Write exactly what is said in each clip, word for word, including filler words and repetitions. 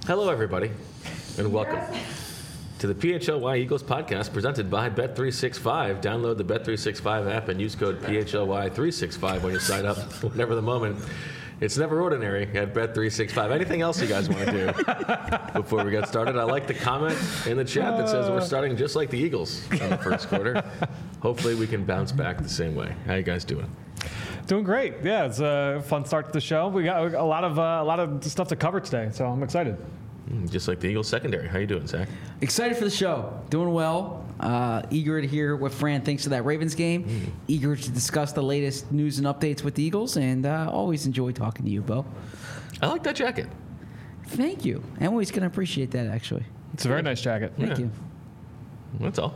Hello, everybody, and welcome to the P H L Y Eagles podcast presented by Bet three sixty-five. Download the Bet three sixty-five app and use code P H L Y three sixty-five when you sign up, whenever the moment. It's never ordinary at Bet three sixty-five. Anything else you guys want to do before we get started? I like the comment in the chat that says we're starting just like the Eagles in the first quarter. Hopefully we can bounce back the same way. How you guys doing? Doing great. Yeah, it's a fun start to the show. We got a lot of uh, a lot of stuff to cover today, so I'm excited. Just like the Eagles secondary. How you doing, Zach? Excited for the show. Doing well. Uh, eager to hear what Fran thinks of that Ravens game. Mm. Eager to discuss the latest news and updates with the Eagles, and uh, always enjoy talking to you, Bo. I like that jacket. Thank you. Emily's going to appreciate that, actually. It's a very nice jacket. Thank Yeah. you. That's all.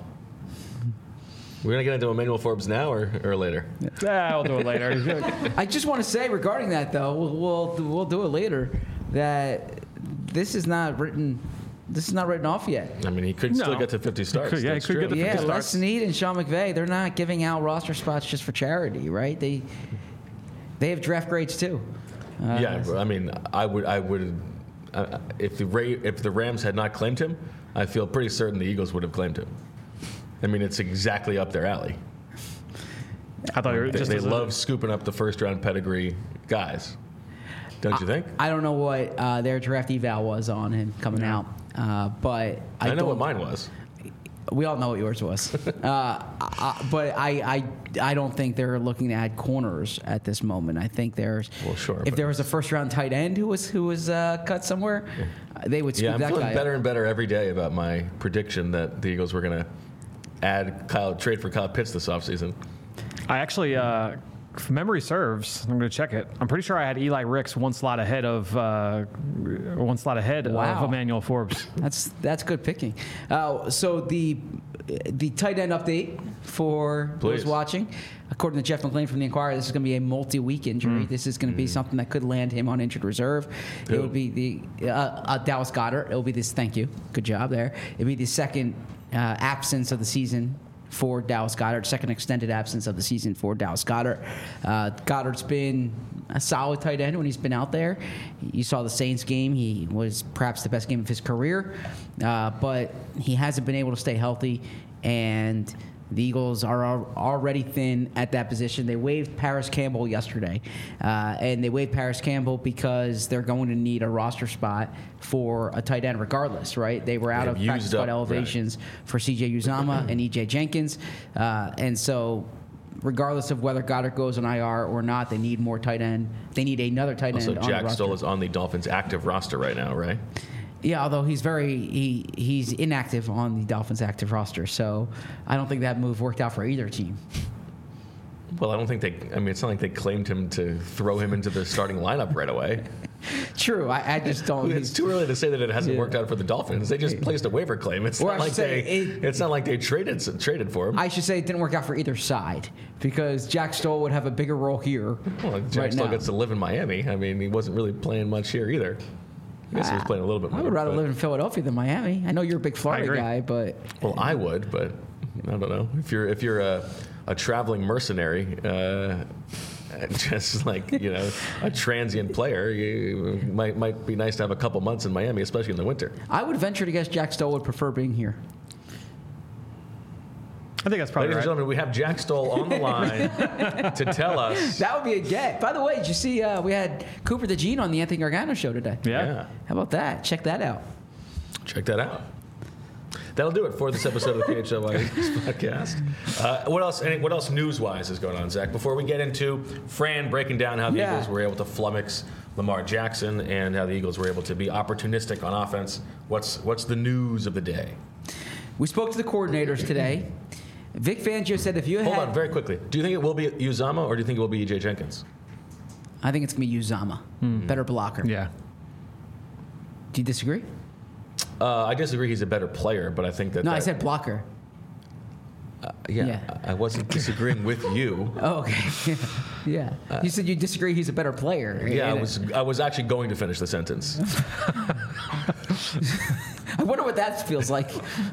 We're going to get into Emmanuel Forbes now or, or later? Yeah, I'll do it later. I just want to say regarding that, though, we'll, we'll we'll do it later. That this is not written. This is not written off yet. I mean, he could No. still get to fifty starts. Could- yeah, he That's could true. get to Yeah, fifty Les starts. Snead and Sean McVay, they're not giving out roster spots just for charity, right? They they have draft grades too. Uh, Yeah, I mean, I would, I would, uh, if the Ra- if the Rams had not claimed him, I feel pretty certain the Eagles would have claimed him. I mean, it's exactly up their alley. I thought you were They, just they as a- love scooping up the first round pedigree guys. Don't you think? I don't know what uh, their draft eval was on him coming out, uh, but I, I, know don't- what mine was. We all know what yours was, uh, I, but I, I I don't think they're looking to add corners at this moment. I think there's Well, sure, if but- there was a first round tight end who was who was uh, cut somewhere, uh, they would scoop Yeah, I'm that feeling guy better up. and better every day about my prediction that the Eagles were going to add Kyle, trade for Kyle Pitts this offseason. I actually, uh, if memory serves, I'm going to check it. I'm pretty sure I had Eli Ricks one slot ahead of uh, one slot ahead Wow. of Emmanuel Forbes. That's that's good picking. Uh, so the the tight end update for Please. those watching, according to Jeff McLean from the Inquirer, this is going to be a multi-week injury. Mm. This is going to be something that could land him on injured reserve. Who? It would be the uh, uh, Dallas Goedert. It will be this. Thank you. Good job there. It would be the second uh, absence of the season for Dallas Goedert, second extended absence of the season for Dallas Goedert. Uh, Goddard's been a solid tight end when he's been out there. You saw the Saints game. He was perhaps the best game of his career, uh, but he hasn't been able to stay healthy, and the Eagles are al- already thin at that position. They waived Paris Campbell yesterday, uh, and they waived Paris Campbell because they're going to need a roster spot for a tight end regardless, right? They were out They've of practice used squad up- elevations for C J Uzomah and E J Jenkins, uh, and so regardless of whether Goddard goes on I R or not, they need more tight end. They need another tight Also, end on the Jack roster. Stoll is on the Dolphins' active roster right now, right? Yeah, although he's very he he's inactive on the Dolphins' active roster, so I don't think that move worked out for either team. Well, I don't think they. I mean, it's not like they claimed him to throw him into the starting lineup right away. True, I, I just don't. It's too early to say that it hasn't Yeah. worked out for the Dolphins. They just placed a waiver claim. It's Or not I like should say they. it- it's not like they traded traded for him. I should say it didn't work out for either side because Jack Stoll would have a bigger role here. well, Jack right still now. gets to live in Miami. I mean, he wasn't really playing much here either. I guess he was playing a little bit more. I would rather but- live in Philadelphia than Miami. I know you're a big Florida agree. guy, but Well, I would, but I don't know. If you're if you're a, a traveling mercenary, uh, just like you know a transient player, you might might be nice to have a couple months in Miami, especially in the winter. I would venture to guess Jack Stoll would prefer being here. I think that's probably Ladies and right. gentlemen, we have Jack Stoll on the line to tell us. That would be a get. By the way, did you see uh, we had Cooper DeJean on the Anthony Gargano show today? Yeah. Yeah, How about that? Check that out. check that out. That'll do it for this episode of the P H L Y podcast. Uh, what else? Any, what else news-wise is going on, Zach? Before we get into Fran breaking down how the Yeah. Eagles were able to flummox Lamar Jackson and how the Eagles were able to be opportunistic on offense, what's what's the news of the day? We spoke to the coordinators today. Vic Fangio said if you Hold had... on, very quickly. Do you think it will be Uzomah or do you think it will be E J Jenkins? I think it's going to be Uzomah. Better blocker. Yeah. Do you disagree? Uh, I disagree. He's a better player, but I think that. No, I that- said blocker. Uh, yeah, yeah. I I wasn't disagreeing with you. Oh, okay. yeah. You said you disagree he's a better player. Yeah, I And- was. I was actually going to finish the sentence. I wonder what that feels like.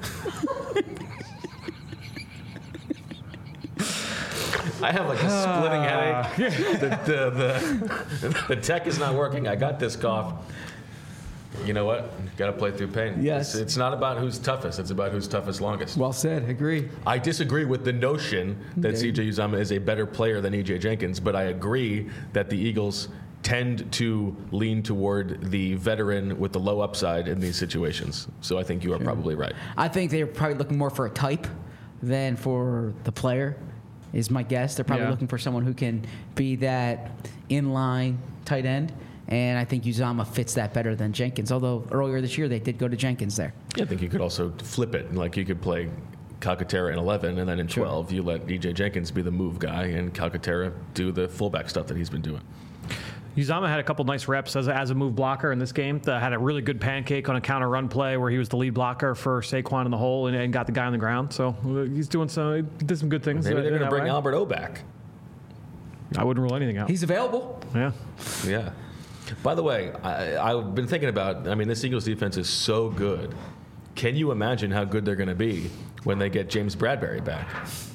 I have like a splitting headache. The, the, the, the tech is not working. I got this cough. you know what? Got to play through pain. Yes. It's, it's not about who's toughest. It's about who's toughest longest. Well said. Agree. I disagree with the notion that Okay. C J Uzomah is a better player than E J Jenkins, but I agree that the Eagles tend to lean toward the veteran with the low upside in these situations. So I think you are probably right. I think they're probably looking more for a type than for the player, is my guess. They're probably Yeah. looking for someone who can be that inline tight end. And I think Uzomah fits that better than Jenkins. Although earlier this year they did go to Jenkins there. Yeah, I think you could also flip it. Like you could play Calcaterra in eleven, and then in Sure. twelve you let E J Jenkins be the move guy and Calcaterra do the fullback stuff that he's been doing. Uzomah had a couple nice reps as a, as a move blocker in this game. That had a really good pancake on a counter run play where he was the lead blocker for Saquon in the hole and, and got the guy on the ground. So uh, he's doing some, he did some good things. Maybe uh, they're in going to that bring way. Albert O back. I wouldn't rule anything out. He's available. yeah. Yeah. By the way, I, I've been thinking about, I mean, this Eagles defense is so good. Can you imagine how good they're going to be when they get James Bradbury back?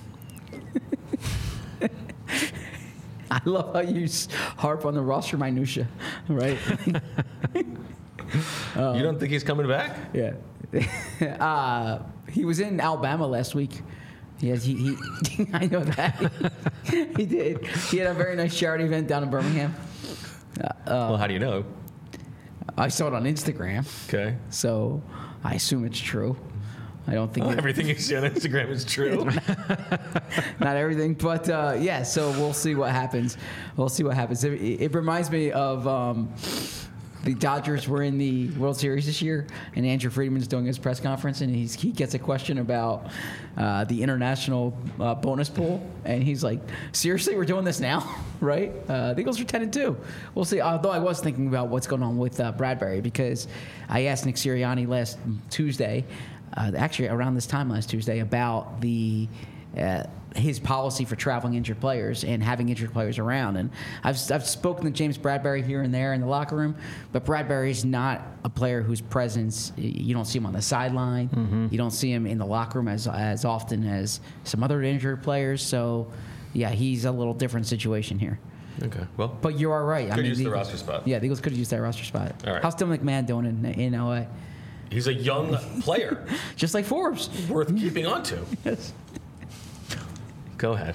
I love how you s- harp on the roster minutia, right? you don't think he's coming back? Yeah. uh, he was in Alabama last week. Yes, he, he I know that. he did. He had a very nice charity event down in Birmingham. well, how do you know? I saw it on Instagram, Okay. so I assume it's true. I don't think Well, it- everything you see on Instagram is true. not everything, but uh, yeah. So we'll see what happens. We'll see what happens. It, it reminds me of um, the Dodgers were in the World Series this year, and Andrew Friedman's doing his press conference, and he's, he gets a question about uh, the international uh, bonus pool, and he's like, "Seriously, we're doing this now, right?" Uh, the Eagles are ten and two. We'll see. Although I was thinking about what's going on with uh, Bradbury, because I asked Nick Sirianni last Tuesday, uh, actually around this time last Tuesday, about the uh, his policy for traveling injured players and having injured players around. And I've, I've spoken to James Bradbury here and there in the locker room, but Bradbury's not a player whose presence, you don't see him on the sideline. Mm-hmm. You don't see him in the locker room as, as often as some other injured players. So, yeah, he's a little different situation here. Okay. Well, But you are right. Could use the Eagles- roster spot. Yeah, the Eagles could have used that roster spot. All right. How's Tim McMahon doing in, in L A? he's a young player Just like Forbes. worth keeping on to. Yes. Go ahead.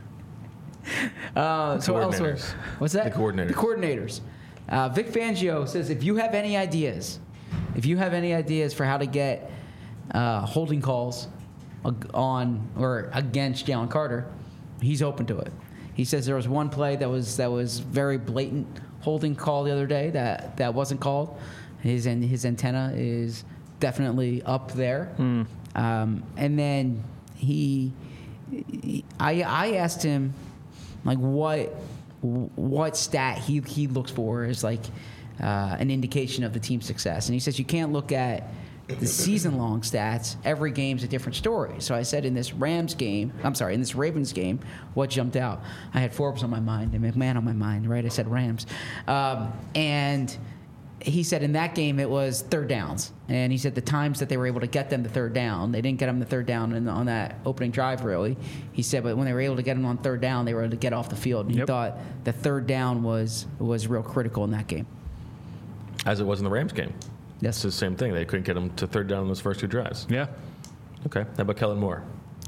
Uh, so elsewhere, Coordinators. what's that? The coordinators. The coordinators. Uh, Vic Fangio says if you have any ideas, if you have any ideas for how to get uh, holding calls ag- on or against Jalen Carter, he's open to it. He says there was one play that was that was very blatant holding call the other day that, that wasn't called. His and his antenna is definitely up there. Um, and then he. I I asked him like what what stat he he looks for as like uh, an indication of the team's success, and he says you can't look at the season long stats. Every game's a different story. So I said in this Rams game, I'm sorry, in this Ravens game, what jumped out? I had Forbes on my mind and McMahon on my mind, right? I said Rams, um, and. He said in that game it was third downs, and he said the times that they were able to get them the third down, they didn't get them the third down in, on that opening drive really. He said, but when they were able to get them on third down, they were able to get off the field. And he Yep. thought the third down was was real critical in that game. As it was in the Rams game. Yes. It's the same thing. They couldn't get him to third down in those first two drives. Yeah. Okay. How about Kellen Moore?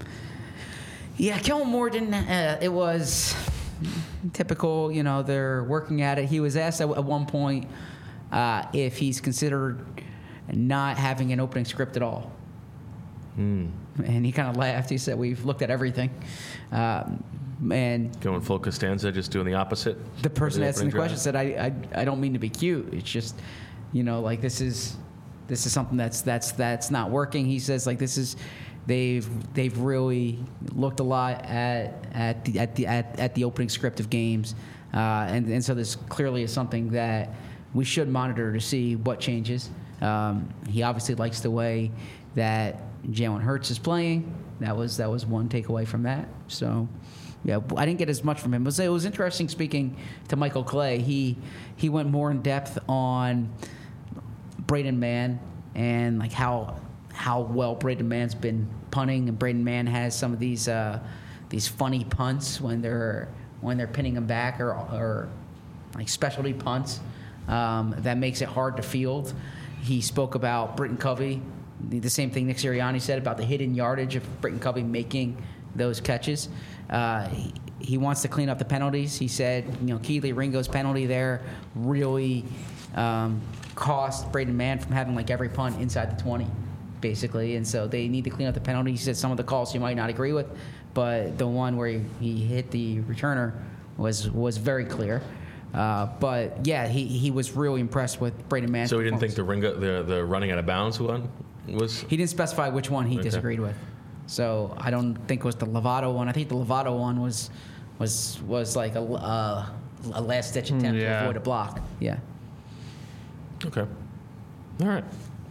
Yeah, Kellen Moore didn't. Uh, it was typical. You know, they're working at it. He was asked at, at one point uh, if he's considered not having an opening script at all. Hmm. And he kind of laughed. He said, "We've looked at everything." Um, and Going full Costanza, just doing the opposite? the person of asking the opening question said, I, I, I don't mean to be cute. It's just, you know, like this is this is something that's that's that's not working. He says like this is they've they've really looked a lot at at the at the at, at the opening script of games, uh, and and so this clearly is something that we should monitor to see what changes. Um, he obviously likes the way that Jalen Hurts is playing. That was that was one takeaway from that. So. Yeah, I didn't get as much from him. It was, it was interesting speaking to Michael Clay. He he went more in depth on Braden Mann and like how how well Braden Mann's been punting, and Braden Mann has some of these uh, these funny punts when they're when they're pinning him back or or like specialty punts um, that makes it hard to field. he spoke about Britton Covey, the, the same thing Nick Sirianni said about the hidden yardage of Britton Covey making those catches. Uh, he, he wants to clean up the penalties. He said, you know, Keely Ringo's penalty there really um, cost Braden Mann from having like every punt inside the twenty, basically. And so they need to clean up the penalty. He said some of the calls you might not agree with, but the one where he, he hit the returner was was very clear. Uh, but yeah, he, he was really impressed with Braden Mann. So he didn't think the Ringo, the the running out of bounds one was. He didn't specify which one he Okay. disagreed with. So I don't think it was the Lovato one. I think the Lovato one was was was like a, uh, a last ditch attempt yeah. to avoid a block. Yeah. Okay. All right.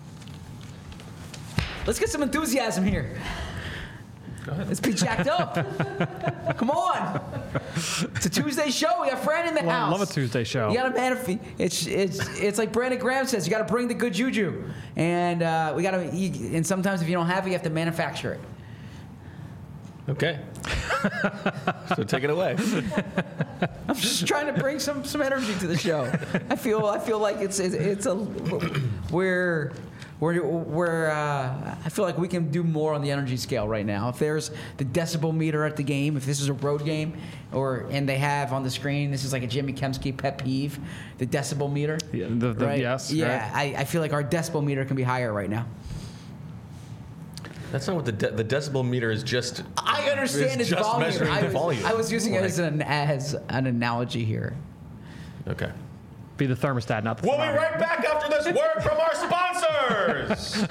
Let's get some enthusiasm here. Go ahead. Let's be jacked up. Come on. It's a Tuesday show. We got Fran in the Love, house. love a Tuesday show. You got to manif- It's it's it's like Brandon Graham says. You got to bring the good juju, and uh, we got to. And sometimes if you don't have it, you have to manufacture it. Okay. So take it away. I'm just trying to bring some some energy to the show. I feel I feel like it's it's, it's a we're we're we're uh, I feel like we can do more on the energy scale right now. If there's the decibel meter at the game, if this is a road game, or and they have on the screen, this is like a Jimmy Kemsky pet peeve, the decibel meter. Yeah, the, the, right? Yes. Yeah, right. I, I feel like our decibel meter can be higher right now. That's not what the de- the decibel meter is. Just I understand it's its just volume. measuring I the was, volume. I was using it as an as an analogy here. Okay. Be the thermostat, not the We'll be thermometer. right back after this word from our sponsors.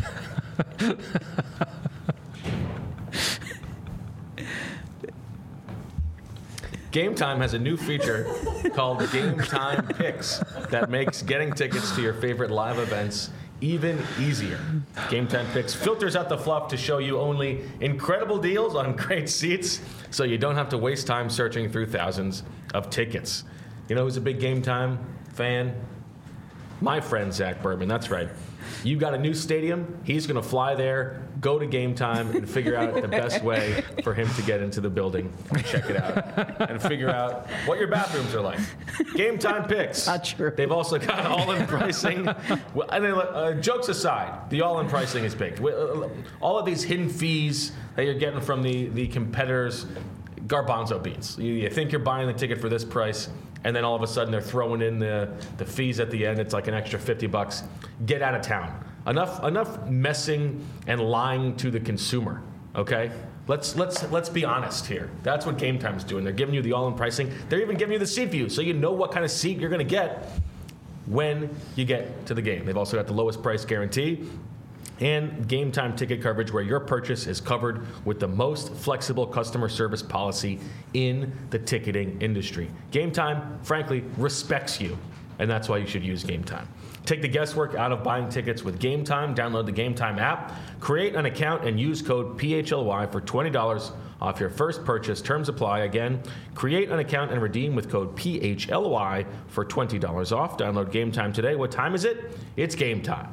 Game Time has a new feature called Game Time Picks that makes getting tickets to your favorite live events even easier. Game Time Picks filters out the fluff to show you only incredible deals on great seats, so you don't have to waste time searching through thousands of tickets. You know who's a big Game Time fan? My friend Zach Berman. That's right. You got a new stadium. He's going to fly there, go to Game Time, and figure out the best way for him to get into the building and check it out, and figure out what your bathrooms are like. Game Time Picks. Not true. They've also got all-in pricing. Well, and then, uh, jokes aside, the all-in pricing is big. Uh, All of these hidden fees that you're getting from the the competitors, garbanzo beans. You, you think you're buying the ticket for this price, and then all of a sudden they're throwing in the, the fees at the end. It's like an extra fifty bucks. Get out of town. Enough enough messing and lying to the consumer, okay? Let's let's let's be honest here. That's what Game Time's doing. They're giving you the all-in pricing. They're even giving you the seat view, so you know what kind of seat you're going to get when you get to the game. They've also got the lowest price guarantee and Game Time ticket coverage where your purchase is covered with the most flexible customer service policy in the ticketing industry. Game Time, frankly, respects you, and that's why you should use Game Time. Take the guesswork out of buying tickets with Game Time. Download the Game Time app, create an account, and use code P H L Y for twenty dollars off your first purchase. Terms apply. Again, create an account and redeem with code P H L Y for twenty dollars off. Download Game Time today. What time is it? It's game time.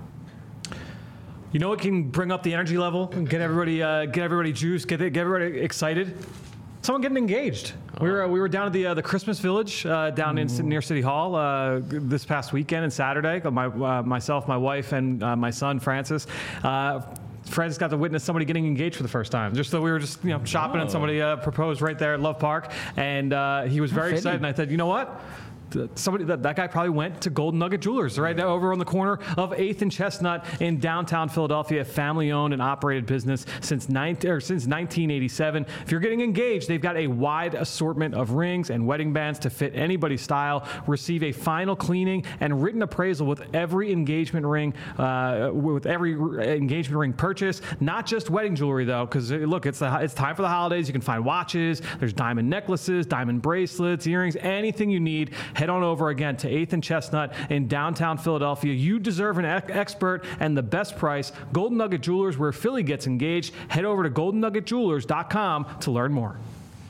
You know what can bring up the energy level and get everybody, uh, get everybody juiced, get get everybody excited? Someone getting engaged. We were uh, we were down at the uh, the Christmas Village uh, down in near City Hall uh, this past weekend and Saturday. My uh, myself, my wife, and uh, my son Francis. Uh, Francis got to witness somebody getting engaged for the first time. Just so we were just you know shopping Oh. and somebody uh, proposed right there at Love Park, and uh, he was very fitting. excited. And I said, you know what? Somebody that, that guy probably went to Golden Nugget Jewelers right over on the corner of eighth and Chestnut in downtown Philadelphia, a family-owned and operated business since nineteen or since nineteen eighty-seven. If you're getting engaged, they've got a wide assortment of rings and wedding bands to fit anybody's style. Receive a final cleaning and written appraisal with every engagement ring, uh, with every engagement ring purchase. Not just wedding jewelry though, because look, it's the, it's time for the holidays. You can find watches. There's diamond necklaces, diamond bracelets, earrings, anything you need. Head on over again to eighth and Chestnut in downtown Philadelphia. You deserve an ec- expert and the best price. Golden Nugget Jewelers, where Philly gets engaged. Head over to golden nugget jewelers dot com to learn more.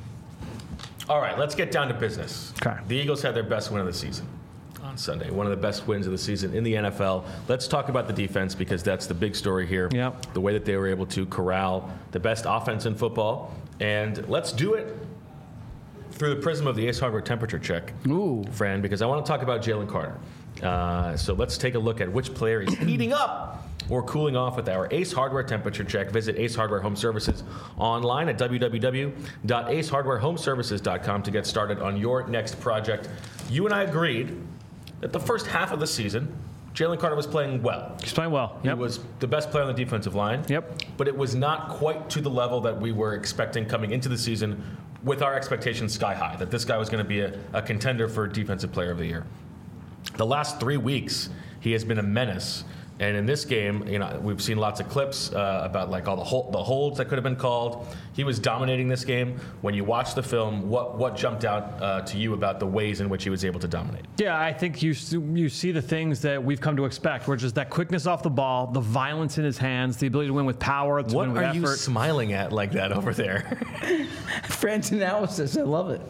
All right, let's get down to business. Okay. The Eagles had their best win of the season on Sunday. One of the best wins of the season in the N F L. Let's talk about the defense because that's the big story here. Yep. The way that they were able to corral the best offense in football. And let's do it through the prism of the Ace Hardware temperature check, Ooh. Fran, because I want to talk about Jalen Carter. Uh, so let's take a look at which player is heating up or cooling off with our Ace Hardware temperature check. Visit Ace Hardware Home Services online at w w w dot ace hardware home services dot com to get started on your next project. You and I agreed that the first half of the season, Jalen Carter was playing well. He's playing well. Yep. He was the best player on the defensive line. Yep. But it was not quite to the level that we were expecting coming into the season with our expectations sky high, that this guy was going to be a, a contender for Defensive Player of the Year. The last three weeks, he has been a menace. And in this game, you know, we've seen lots of clips uh, about like all the hol- the holds that could have been called. He was dominating this game. When you watch the film, what what jumped out uh, to you about the ways in which he was able to dominate? Yeah, I think you you see the things that we've come to expect, which is that quickness off the ball, the violence in his hands, the ability to win with power, to What win with are effort. you smiling at like that over there? Friends analysis. I love it.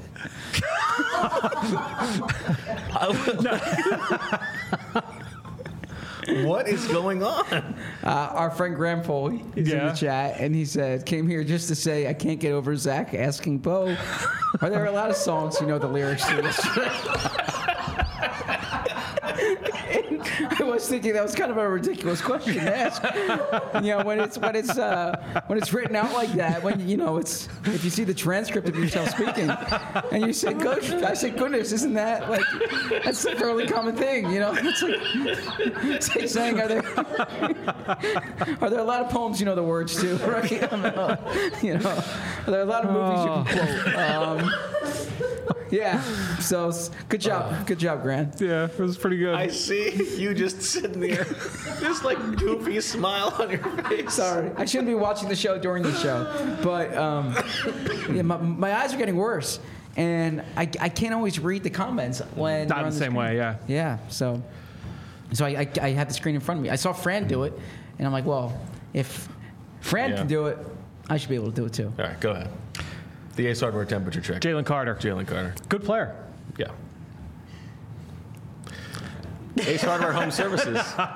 What is going on? Uh, our friend Graham Foley is in Yeah. the chat, and he said, came here just to say, I can't get over Zach asking Bo, are there a lot of songs you know the lyrics to yesterday? I was thinking that was kind of a ridiculous question to ask. You know, when it's when it's uh, when it's written out like that, when you know it's if you see the transcript of yourself speaking, and you say, "Gosh," I say, "Goodness, isn't that like that's a fairly common thing?" You know, it's like, it's like saying, "Are there are there a lot of poems you know the words to?" Right? You know, are there a lot of movies you can quote? Um, yeah. So good job, good job, Grant. Yeah, it was pretty good. I see you just sitting there, this like goofy smile on your face. Sorry, I shouldn't be watching the show during the show, but um, yeah, my, my eyes are getting worse, and I, I can't always read the comments when Not they're on the same screen. way, yeah. Yeah, so so I, I I had the screen in front of me. I saw Fran do it, and I'm like, well, if Fran Yeah. can do it, I should be able to do it too. All right, go ahead. The Ace Hardware temperature check. Jalen Carter. Jalen Carter. Good player. Yeah. Ace Hardware Home Services.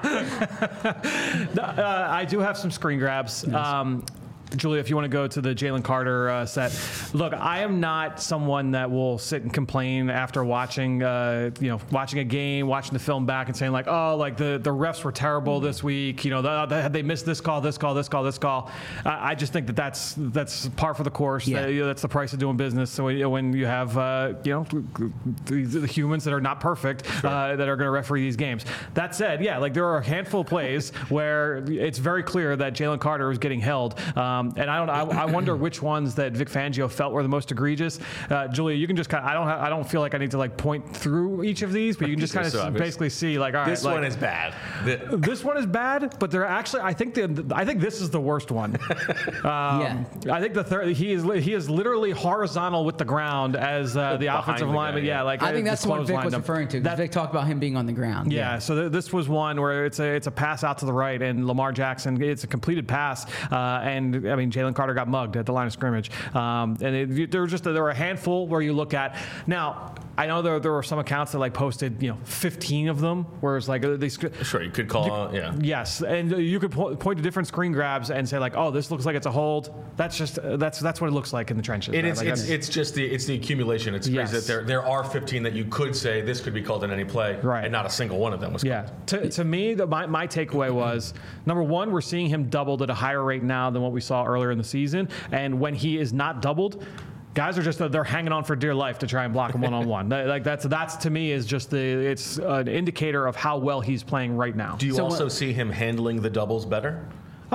Uh, I do have some screen grabs. Um, Julia, if you want to go to the Jalen Carter uh, set. Look, I am not someone that will sit and complain after watching, uh, you know, watching a game, watching the film back and saying like, oh, like the, the refs were terrible this week. You know, the, the, they missed this call, this call, this call, this call. I, I just think that that's that's par for the course. Yeah. That, you know, that's the price of doing business. So when, when you have, uh, you know, the, the humans that are not perfect uh, that are going to referee these games. That said, yeah, like there are a handful of plays where it's very clear that Jalen Carter was getting held. Um, and I don't. I, I wonder which ones that Vic Fangio felt were the most egregious. Uh, Julia, you can just kind of. I don't. Ha- I don't feel like I need to like point through each of these, but you can just kind of So obvious. basically see like, all right, This like, one is bad. The- this one is bad, but they're actually. I think the. I think this is the worst one. Um, Yeah. I think the third. He is. li- He is literally horizontal with the ground as uh, the Behind offensive the guy, lineman. yeah. Yeah, like I think that's the one Vic clotheslined was him. referring to. 'Cause That- Vic talked about him being on the ground. yeah, so th- this was one where it's a it's a pass out to the right, and Lamar Jackson, it's a completed pass, uh, and I mean Jalen Carter got mugged at the line of scrimmage, um, and it, there were just there were a handful where you look at. Now I know there there were some accounts that like posted you know fifteen of them, where it's like uh, they. sc- Sure, you could call, yeah. Yes, and uh, you could po- point to different screen grabs and say like, "Oh, this looks like it's a hold." That's just uh, that's that's what it looks like in the trenches. It right? is. Like, It's, that's- it's just the it's the accumulation. It's crazy Yes. that there there are fifteen that you could say this could be called in any play, Right. and not a single one of them was. Yeah. To, to me, the, my, my takeaway was, number one, we're seeing him doubled at a higher rate now than what we saw earlier in the season. And when he is not doubled, guys are just, they're hanging on for dear life to try and block him one-on-one. That- Like that's, that's to me is just the, it's an indicator of how well he's playing right now. Do you So also what- see him handling the doubles better?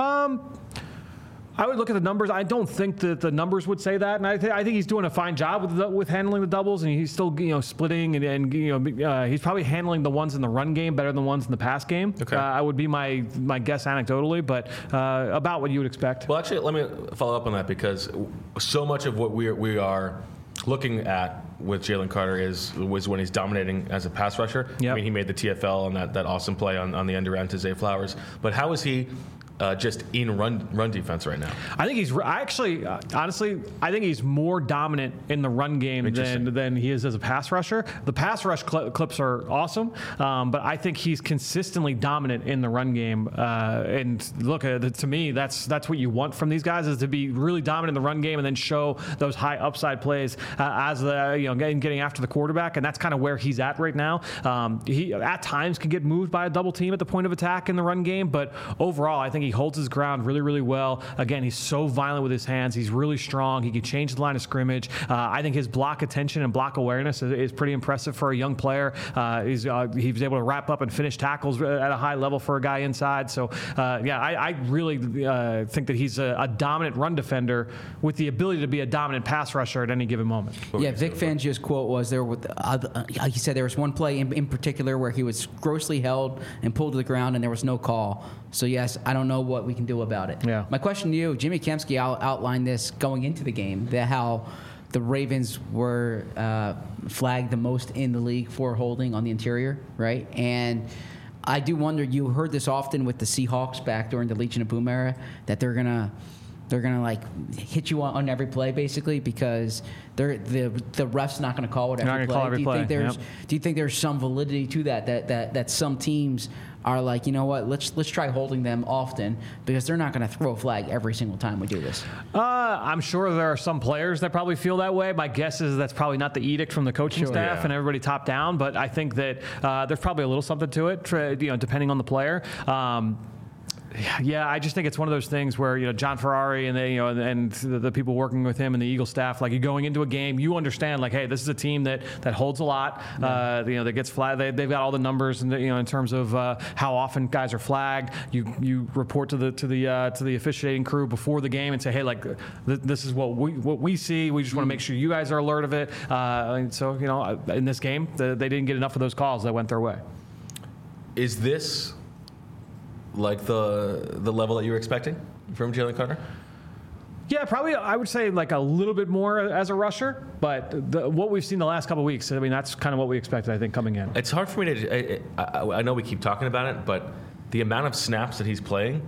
I would look at the numbers. I don't think that the numbers would say that, and I, th- I think he's doing a fine job with the, with handling the doubles, and he's still you know splitting and, and you know uh, he's probably handling the ones in the run game better than the ones in the pass game. Okay. Uh, I would be my my guess anecdotally, but uh, about what you would expect. Well, actually, let me follow up on that because so much of what we are, we are looking at with Jalen Carter is was when he's dominating as a pass rusher. Yep. I mean, he made the T F L on that, that awesome play on, on the end around to Zay Flowers. But how is he uh, just in run run defense right now? I think he's I actually, uh, honestly, I think he's more dominant in the run game than than he is as a pass rusher. The pass rush cl- clips are awesome, um, but I think he's consistently dominant in the run game. Uh, and look, uh, to me, that's that's what you want from these guys, is to be really dominant in the run game and then show those high upside plays uh, as the you know getting, getting after the quarterback. And that's kind of where he's at right now. Um, he at times can get moved by a double team at the point of attack in the run game, but overall, I think he holds his ground really, really well. Again, he's so violent with his hands. He's really strong. He can change the line of scrimmage. Uh, I think his block attention and block awareness is, is pretty impressive for a young player. Uh, he's uh, he was able to wrap up and finish tackles at a high level for a guy inside. So, uh, yeah, I, I really uh, think that he's a, a dominant run defender with the ability to be a dominant pass rusher at any given moment. Yeah, Vic Fangio's quote was there. With uh, he said there was one play in, in particular where he was grossly held and pulled to the ground, and there was no call. So yes, I don't know what we can do about it. Yeah. My question to you, Jimmy Kempski out, outlined this going into the game, that how the Ravens were uh, flagged the most in the league for holding on the interior, right? And I do wonder, you heard this often with the Seahawks back during the Legion of Boom era, that they're gonna they're gonna like hit you on, on every play basically because they're the the ref's not gonna call it every Not gonna play. call every do you play, think there's yep. do you think there's some validity to that that that that some teams are like, you know what, let's let's try holding them often because they're not going to throw a flag every single time we do this? Uh, I'm sure there are some players that probably feel that way. My guess is that's probably not the edict from the coaching Sure, staff yeah. and everybody top down, but I think that uh, there's probably a little something to it, you know, depending on the player. Um, Yeah, I just think it's one of those things where, you know, John Ferrari and they, you know, and the, the people working with him and the Eagle staff, like, you're going into a game, you understand, like, hey, this is a team that that holds a lot, uh, you know, that gets flagged. They, they've got all the numbers, and you know, in terms of uh, how often guys are flagged. You you report to the to the uh, to the officiating crew before the game and say, hey, like, th- this is what we what we see. We just want to make sure you guys are alert of it. Uh, and so, you know, in this game, the, they didn't get enough of those calls that went their way. Is this like the the level that you were expecting from Jalen Carter? Yeah, probably. I would say like a little bit more as a rusher, but the, what we've seen the last couple of weeks, I mean, that's kind of what we expected, I think, coming in. It's hard for me to. I, I, I know we keep talking about it, but the amount of snaps that he's playing.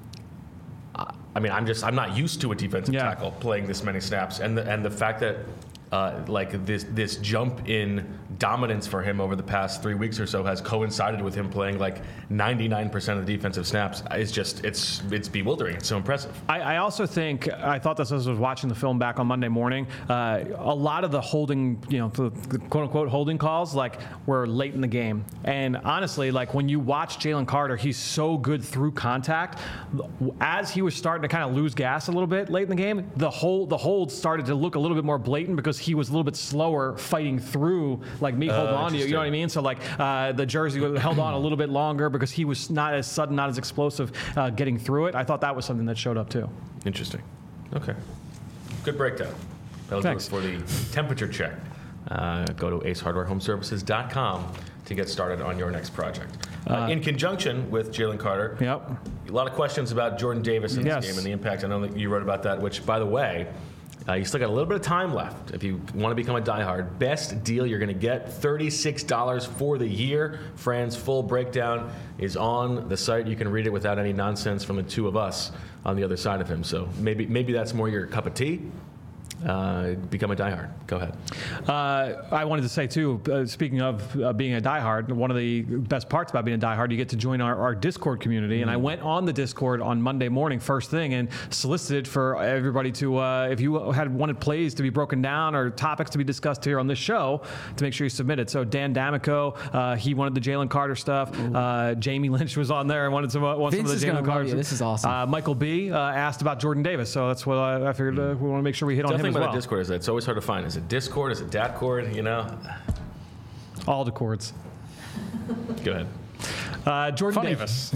I mean, I'm just I'm not used to a defensive Yeah. tackle playing this many snaps, and the and the fact that uh, like this this jump in dominance for him over the past three weeks or so has coincided with him playing like ninety-nine percent of the defensive snaps. It's just it's it's bewildering. It's so impressive. I, I also think I thought this as I was watching the film back on Monday morning. Uh, a lot of the holding, you know, the, the quote unquote holding calls, like, were late in the game. And honestly, like, when you watch Jalen Carter, he's so good through contact. As he was starting to kind of lose gas a little bit late in the game, the hold the hold started to look a little bit more blatant because he was a little bit slower fighting through, like, me holding Uh, on to you. You know what I mean? So, like, uh, the jersey held on a little bit longer because he was not as sudden, not as explosive uh, getting through it. I thought that was something that showed up too. Interesting. Okay. Good breakdown. That'll Thanks. do it for the temperature check. Uh, go to ace hardware home services dot com to get started on your next project. Uh, in conjunction with Jalen Carter, Yep. a lot of questions about Jordan Davis in this Yes. game and the impact. I know that you wrote about that, which, by the way, uh, you still got a little bit of time left if you want to become a diehard. Best deal you're going to get, thirty-six dollars for the year. Fran's full breakdown is on the site. You can read it without any nonsense from the two of us on the other side of him. So maybe maybe that's more your cup of tea. Uh, become a diehard. Go ahead. Uh, I wanted to say, too, uh, speaking of uh, being a diehard, one of the best parts about being a diehard, you get to join our, our Discord community. Mm-hmm. And I went on the Discord on Monday morning, first thing, and solicited for everybody to, uh, if you had wanted plays to be broken down or topics to be discussed here on this show, to make sure you submitted. So Dan D'Amico, uh, he wanted the Jalen Carter stuff. Uh, Jamie Lynch was on there and wanted some, uh, wanted Vince some is of the gonna Jalen love Carter you. stuff. This is awesome. Uh, Michael B. Uh, asked about Jordan Davis. So that's what I, I figured uh, we want to make sure we hit on him Definitely as about well. the Discord is that it's always hard to find. Is it Discord? Is it Datcord? You know? All the chords. Go ahead. Uh, Jordan Funny. Davis.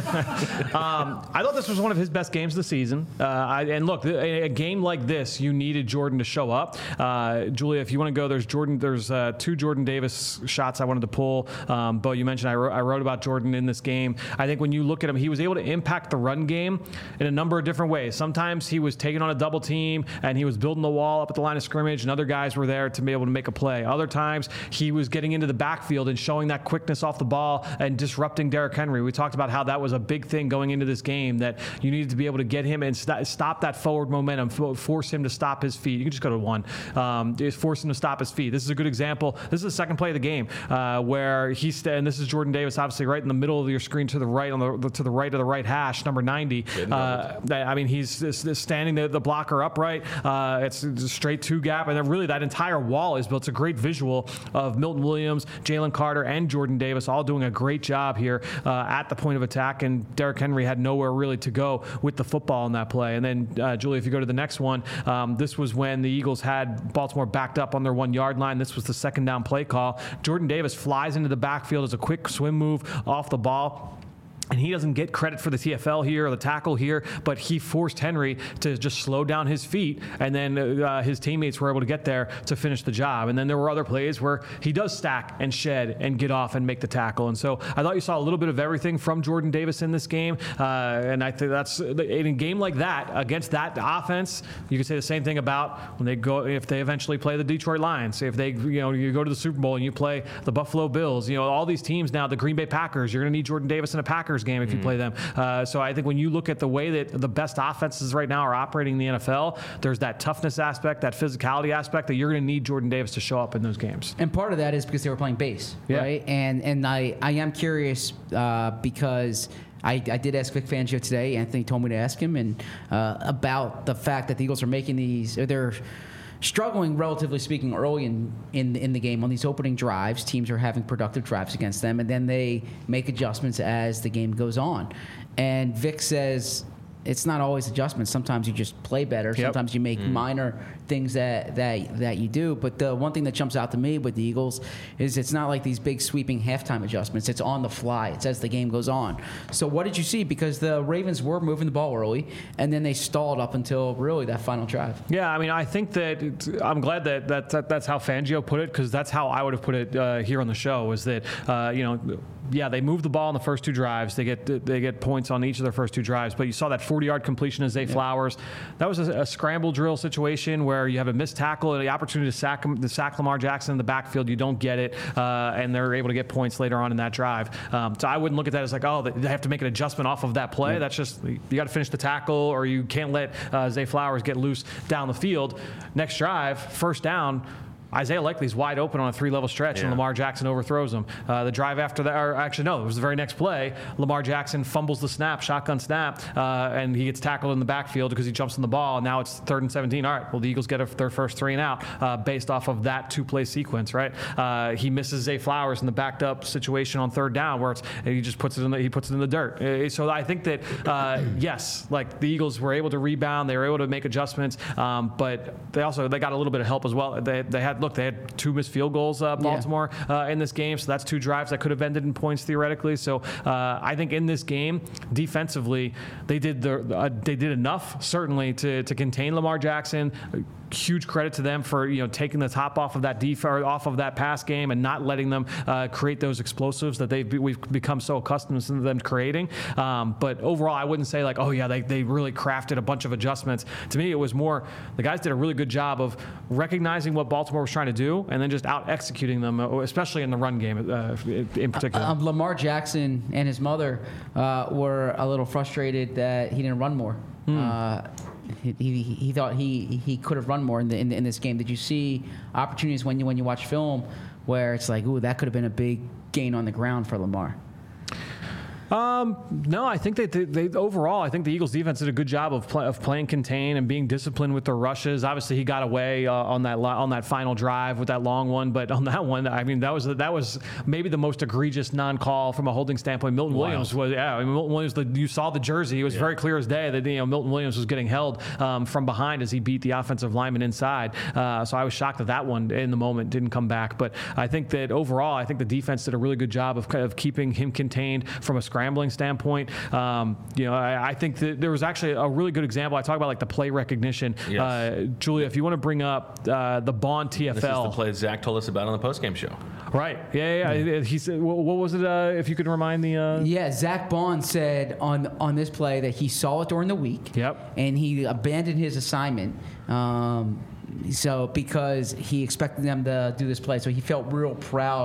um, I thought this was one of his best games of the season. Uh, I, and look, a, a game like this, you needed Jordan to show up. Uh, Julia, if you want to go, there's Jordan. There's uh, two Jordan Davis shots I wanted to pull. Um, Bo, you mentioned I wrote, I wrote about Jordan in this game. I think when you look at him, he was able to impact the run game in a number of different ways. Sometimes he was taking on a double team and he was building the wall up at the line of scrimmage, and other guys were there to be able to make a play. Other times he was getting into the backfield and showing that quickness off the ball and disrupting disrupting Derrick Henry. We talked about how that was a big thing going into this game, that you needed to be able to get him and st- stop that forward momentum, f- force him to stop his feet. You can just go to one. Um, just force him to stop his feet. This is a good example. This is the second play of the game uh, where he's st- and this is Jordan Davis, obviously right in the middle of your screen to the right on the to the right of the right hash, number ninety. Uh, I mean, he's just standing the, the blocker upright. Uh, it's a straight two gap, and then really that entire wall is built. It's a great visual of Milton Williams, Jalen Carter, and Jordan Davis all doing a great job here uh, at the point of attack, and Derrick Henry had nowhere really to go with the football in that play. And then, uh, Julie, if you go to the next one, um, this was when the Eagles had Baltimore backed up on their one-yard line. This was the second down play call. Jordan Davis flies into the backfield as a quick swim move off the ball. And he doesn't get credit for the T F L here or the tackle here, but he forced Henry to just slow down his feet, and then uh, his teammates were able to get there to finish the job. And then there were other plays where he does stack and shed and get off and make the tackle. And so I thought you saw a little bit of everything from Jordan Davis in this game. Uh, and I think that's in a game like that against that offense. You could say the same thing about when they go if they eventually play the Detroit Lions. If they you know you go to the Super Bowl and you play the Buffalo Bills, you know all these teams now, the Green Bay Packers. You're going to need Jordan Davis in a Packers game if you mm. play them. Uh, so I think when you look at the way that the best offenses right now are operating in the N F L, there's that toughness aspect, that physicality aspect that you're going to need Jordan Davis to show up in those games. And part of that is because they were playing base, yeah. right? And and I, I am curious uh, because I, I did ask Vic Fangio today. Anthony told me to ask him and uh, about the fact that the Eagles are making these, or they're struggling, relatively speaking, early in, in in the game on these opening drives. Teams are having productive drives against them, and then they make adjustments as the game goes on. And Vic says it's not always adjustments. Sometimes you just play better. Yep. Sometimes you make Mm. minor things that, that that you do. But the one thing that jumps out to me with the Eagles is it's not like these big sweeping halftime adjustments. It's on the fly. It's as the game goes on. So what did you see? Because the Ravens were moving the ball early, and then they stalled up until really that final drive. Yeah, I mean, I think that it's, I'm glad that, that, that that's how Fangio put it, because that's how I would have put it uh, here on the show. Was that uh, you know, yeah, they moved the ball in the first two drives. They get they get points on each of their first two drives. But you saw that forty-yard completion to Zay yeah. Flowers. That was a, a scramble drill situation where you have a missed tackle and the opportunity to sack to sack Lamar Jackson in the backfield. You don't get it, uh, and they're able to get points later on in that drive. Um, so I wouldn't look at that as like, oh, they have to make an adjustment off of that play. Yeah. That's just you got to finish the tackle, or you can't let uh, Zay Flowers get loose down the field. Next drive, first down. Isaiah Likely's wide open on a three-level stretch, yeah. and Lamar Jackson overthrows him. Uh, the drive after that, or actually, no, it was the very next play. Lamar Jackson fumbles the snap, shotgun snap, uh, and he gets tackled in the backfield because he jumps on the ball. Now it's third and seventeen. All right, well, the Eagles get a, their first three and out uh, based off of that two-play sequence, right? Uh, he misses Zay Flowers in the backed-up situation on third down, where it's, he just puts it in the, he puts it in the dirt. Uh, so I think that uh, yes, like the Eagles were able to rebound, they were able to make adjustments, um, but they also they got a little bit of help as well. They they had. Look, they had two missed field goals, uh, Baltimore, yeah. uh, in this game. So that's two drives that could have ended in points theoretically. So uh, I think in this game, defensively, they did the uh, they did enough certainly to to contain Lamar Jackson. Huge credit to them for you know taking the top off of that def- or off of that pass game and not letting them uh, create those explosives that they've we've become so accustomed to them creating. Um, but overall, I wouldn't say like, oh yeah, they they really crafted a bunch of adjustments. To me, it was more the guys did a really good job of recognizing what Baltimore was trying to do and then just out executing them, especially in the run game uh, in particular. Um, Lamar Jackson and his mother uh, were a little frustrated that he didn't run more. Hmm. Uh, He, he, he thought he he could have run more in, the, in, the, in this game. Did you see opportunities when you when you watch film where it's like, ooh, that could have been a big gain on the ground for Lamar? Um, no, I think they, they, they overall, I think the Eagles defense did a good job of play, of playing contain and being disciplined with their rushes. Obviously, he got away uh, on that on that final drive with that long one, but on that one, I mean, that was that was maybe the most egregious non-call from a holding standpoint. Milton wow. Williams was, yeah, I mean, Milton Williams. The, you saw the jersey; it was yeah. very clear as day that you know Milton Williams was getting held um, from behind as he beat the offensive lineman inside. Uh, so I was shocked that that one in the moment didn't come back. But I think that overall, I think the defense did a really good job of of keeping him contained from a scrambling standpoint. Um, you know, I, I think that there was actually a really good example. I talk about like the play recognition. Yes. Uh, Julia, if you want to bring up uh, the Bond T F L. This is the play Zach told us about on the postgame show. Right. Yeah, yeah. yeah. He said, what, what was it? Uh, if you could remind the. Uh... Yeah, Zach Bond said on on this play that he saw it during the week. Yep. And he abandoned his assignment. Um, So because he expected them to do this play, so he felt real proud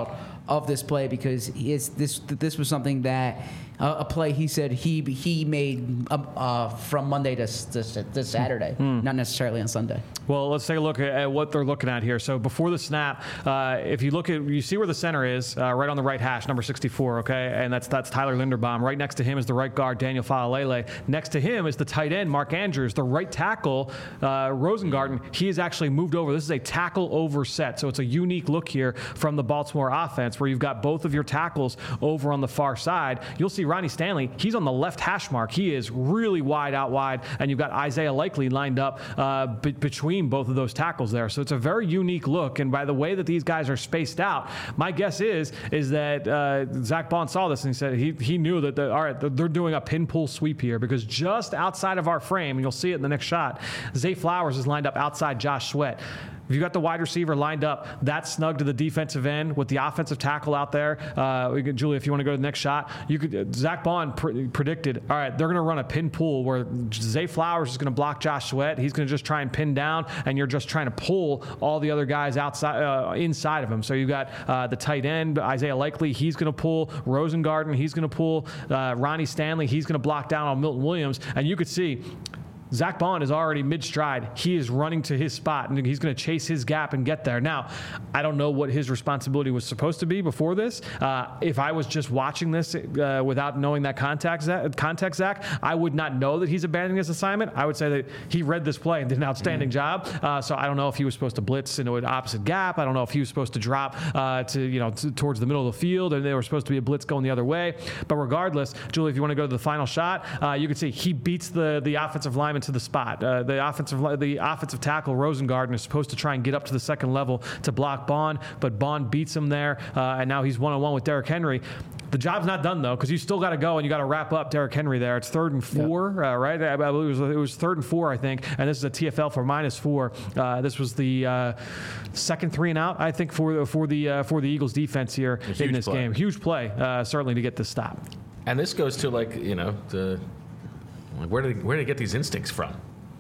of this play because he is, this this was something that uh, a play he said he he made uh, uh, from Monday to, to, to Saturday, mm. not necessarily on Sunday. Well, let's take a look at what they're looking at here. So before the snap, uh, if you look at, you see where the center is, uh, right on the right hash, number sixty-four, okay? And that's that's Tyler Linderbaum. Right next to him is the right guard, Daniel Faalele. Next to him is the tight end, Mark Andrews. The right tackle, uh, Rosengarten, he has actually moved over. This is a tackle over set. So it's a unique look here from the Baltimore offense where you've got both of your tackles over on the far side. You'll see Ronnie Stanley, he's on the left hash mark. He is really wide out wide. And you've got Isaiah Likely lined up uh, be- between both of those tackles there. So it's a very unique look. And by the way that these guys are spaced out, my guess is is that uh, Zach Bond saw this and he said he, he knew that, the, all right, they're doing a pin pull sweep here because just outside of our frame, and you'll see it in the next shot, Zay Flowers is lined up outside Josh Sweat. If you got the wide receiver lined up, that's snug to the defensive end with the offensive tackle out there. Uh, we could, Julie, if you want to go to the next shot, you could. Uh, Zach Bond pr- predicted, all right, they're going to run a pin pull where Zay Flowers is going to block Josh Sweat. He's going to just try and pin down, and you're just trying to pull all the other guys outside, uh, inside of him. So you've got uh, the tight end, Isaiah Likely, he's going to pull. Rosengarten, he's going to pull. Uh, Ronnie Stanley, he's going to block down on Milton Williams, and you could see Zach Bond is already mid-stride. He is running to his spot, and he's going to chase his gap and get there. Now, I don't know what his responsibility was supposed to be before this. Uh, if I was just watching this uh, without knowing that context, context, Zach, I would not know that he's abandoning his assignment. I would say that he read this play and did an outstanding mm-hmm. job. Uh, so I don't know if he was supposed to blitz into an opposite gap. I don't know if he was supposed to drop uh, to you know to, towards the middle of the field, and they were supposed to be a blitz going the other way. But regardless, Julie, if you want to go to the final shot, uh, you can see he beats the the offensive lineman to the spot. Uh, the offensive the offensive tackle Rosengarten is supposed to try and get up to the second level to block Bond, but Bond beats him there, uh, and now he's one-on-one with Derrick Henry. The job's not done, though, because you still got to go and you got to wrap up Derrick Henry there. It's third and four, yep. uh, right? I believe it was, it was third and four, I think, and this is a T F L for minus four. Uh, this was the uh, second three and out, I think, for for the uh, for the Eagles defense here in this play. game. Huge play, uh, certainly, to get this stop. And this goes to, like, you know, the, like where did where did they get these instincts from?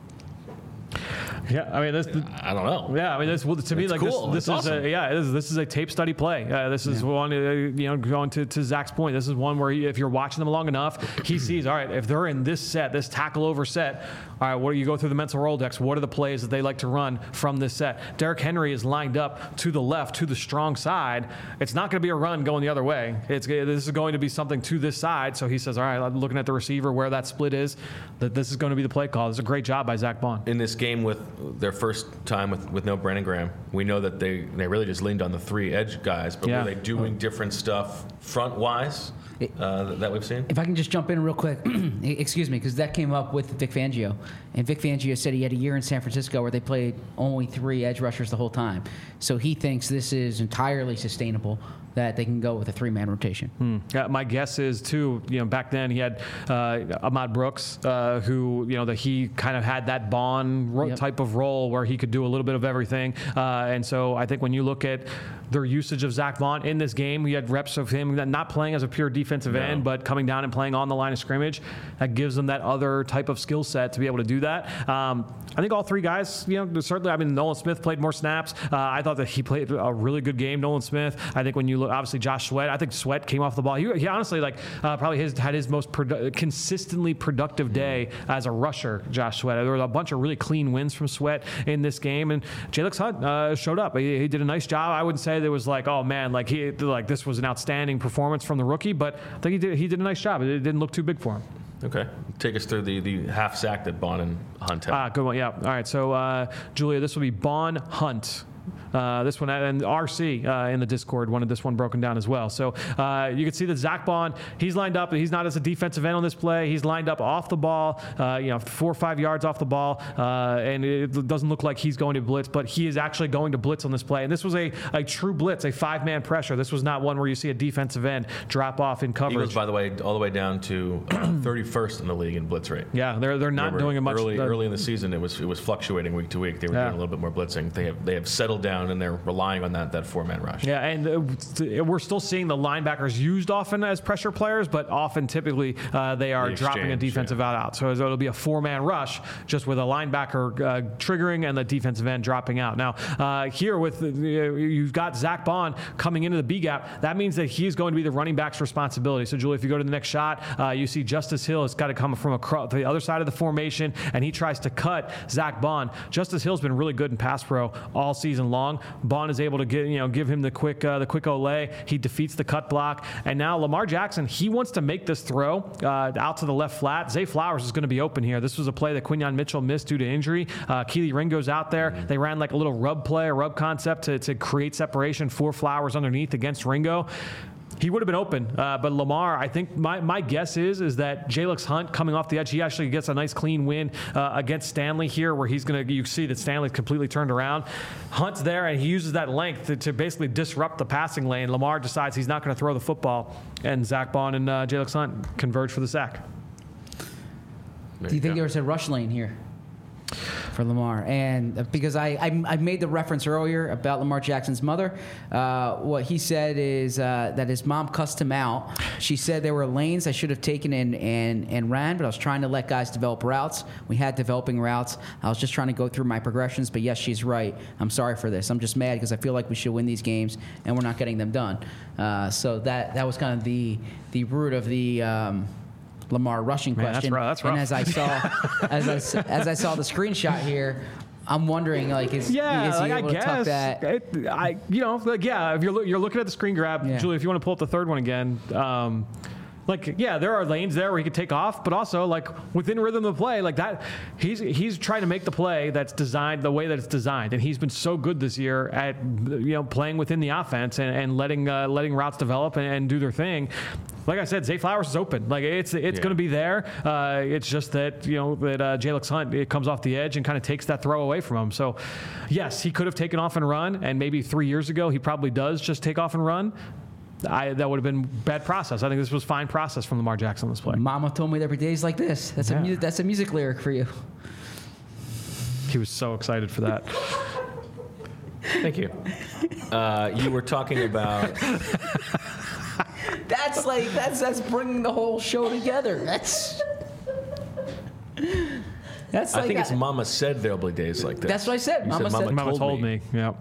Yeah, I mean, this. I don't know. Yeah, I mean, this well, to me, it's like cool. this. This it's is awesome. a, yeah, this is, this is a tape study play. Uh, this is yeah. one, uh, you know, going to, to Zach's point. This is one where he, if you're watching them long enough, he sees, all right, if they're in this set, this tackle over set, all right, what do you go through the mental Rolodex? What are the plays that they like to run from this set? Derrick Henry is lined up to the left, to the strong side. It's not going to be a run going the other way. It's this is going to be something to this side. So he says, all right, I'm looking at the receiver where that split is. That this is going to be the play call. This is a great job by Zach Bond in this game with their first time with, with no Brandon Graham. We know that they, they really just leaned on the three edge guys, but yeah. were they doing different stuff front wise uh, that, that we've seen? If I can just jump in real quick, excuse me, because that came up with Vic Fangio, and Vic Fangio said he had a year in San Francisco where they played only three edge rushers the whole time. So he thinks this is entirely sustainable, that they can go with a three-man rotation. Hmm. Yeah, my guess is too. You know, back then he had uh, Ahmad Brooks, uh, who you know that he kind of had that Bond ro- yep. type of role where he could do a little bit of everything. Uh, and so I think when you look at their usage of Zach Bond in this game, we had reps of him not playing as a pure defensive no. end, but coming down and playing on the line of scrimmage. That gives them that other type of skill set to be able to do that. Um, I think all three guys, you know, certainly. I mean, Nolan Smith played more snaps. Uh, I thought that he played a really good game, Nolan Smith. I think when you look, obviously Josh Sweat. I think Sweat came off the ball. He, he honestly, like, uh, probably his, had his most produ- consistently productive day as a rusher. Josh Sweat. There was a bunch of really clean wins from Sweat in this game, and Jalix Hunt uh, showed up. He, he did a nice job. I wouldn't say there was like, oh man, like he like this was an outstanding performance from the rookie, but I think he did he did a nice job. It didn't look too big for him. Okay. Take us through the, the half sack that Bond and Hunt had. Ah, good one. Yeah. All right. So, uh, Julia, this will be Bond Hunt. Uh, this one, and R C uh, in the Discord wanted this one broken down as well. So uh, you can see that Zach Bond, he's lined up. He's not as a defensive end on this play. He's lined up off the ball, uh, you know, four or five yards off the ball, uh, and it doesn't look like he's going to blitz, but he is actually going to blitz on this play. And this was a, a true blitz, a five-man pressure. This was not one where you see a defensive end drop off in coverage. Eagles, by the way, all the way down to thirty-first in the league in blitz rate. Yeah, they're they're not Remember, doing it much. Early, the, early in the season, it was it was fluctuating week to week. They were yeah. doing a little bit more blitzing. They have they have settled down down, and they're relying on that that four-man rush. Yeah, and uh, we're still seeing the linebackers used often as pressure players, but often typically uh, they are The dropping a exchange, defensive yeah. out out. So it'll be a four-man rush just with a linebacker uh, triggering and the defensive end dropping out. Now, uh, here with uh, you've got Zach Bond coming into the B gap. That means that he's going to be the running back's responsibility. So, Julie, if you go to the next shot, uh, you see Justice Hill has got to come from across the other side of the formation, and he tries to cut Zach Bond. Justice Hill's been really good in pass pro all season long. Bond is able to get you know give him the quick uh, the quick olay. He defeats the cut block, and now Lamar Jackson, he wants to make this throw uh, out to the left flat. Zay Flowers is going to be open here. This was a play that Quinyon Mitchell missed due to injury. Uh, Keely Ringo's out there. Mm-hmm. They ran like a little rub play, a rub concept to, to create separation for Flowers underneath against Ringo. He would have been open, uh, but Lamar, I think my, my guess is is that Jalix Hunt coming off the edge, he actually gets a nice clean win uh, against Stanley here, where he's going to, you see that Stanley's completely turned around. Hunt's there, and he uses that length to, to basically disrupt the passing lane. Lamar decides he's not going to throw the football, and Zach Bond and uh, Jalix Hunt converge for the sack. There Do you, you think go. there was a rush lane here for Lamar? And because I, I I made the reference earlier about Lamar Jackson's mother, uh, what he said is uh, that his mom cussed him out. She said there were lanes I should have taken and, and, and ran, but I was trying to let guys develop routes. We had developing routes. I was just trying to go through my progressions, but yes, she's right. I'm sorry for this. I'm just mad because I feel like we should win these games, and we're not getting them done. Uh, so that, that was kind of the, the root of the um, Lamar rushing Man, question. That's rough. That's rough. And as I saw, as I as I saw the screenshot here, I'm wondering, like, is, yeah, is he like, able I to tuck guess that? It, I, you know, like, yeah. If you're loo- you're looking at the screen grab, Yeah. Julie, if you want to pull up the third one again. Um, Like, yeah, there are lanes there where he could take off, but also, like, within rhythm of play, like that, he's he's trying to make the play that's designed the way that it's designed, and he's been so good this year at, you know, playing within the offense and, and letting uh, letting routes develop and, and do their thing. Like I said, Zay Flowers is open. Like, it's it's Yeah. going to be there. Uh, it's just that, you know, that uh, Jalix Hunt, it comes off the edge and kind of takes that throw away from him. So, yes, he could have taken off and run, and maybe three years ago he probably does just take off and run. I, that would have been bad process. I think this was fine process from Lamar Jackson on this play. Mama told me every day is like this. That's Yeah. a mu- that's a music lyric for you. He was so excited for that. Thank you. Uh, you were talking about. That's like that's that's bringing the whole show together. That's that's. Like I think it's a- Mama said there'll be days like this. That's what I said. You Mama said, said- Mama, Mama told, told me. me. Yeah.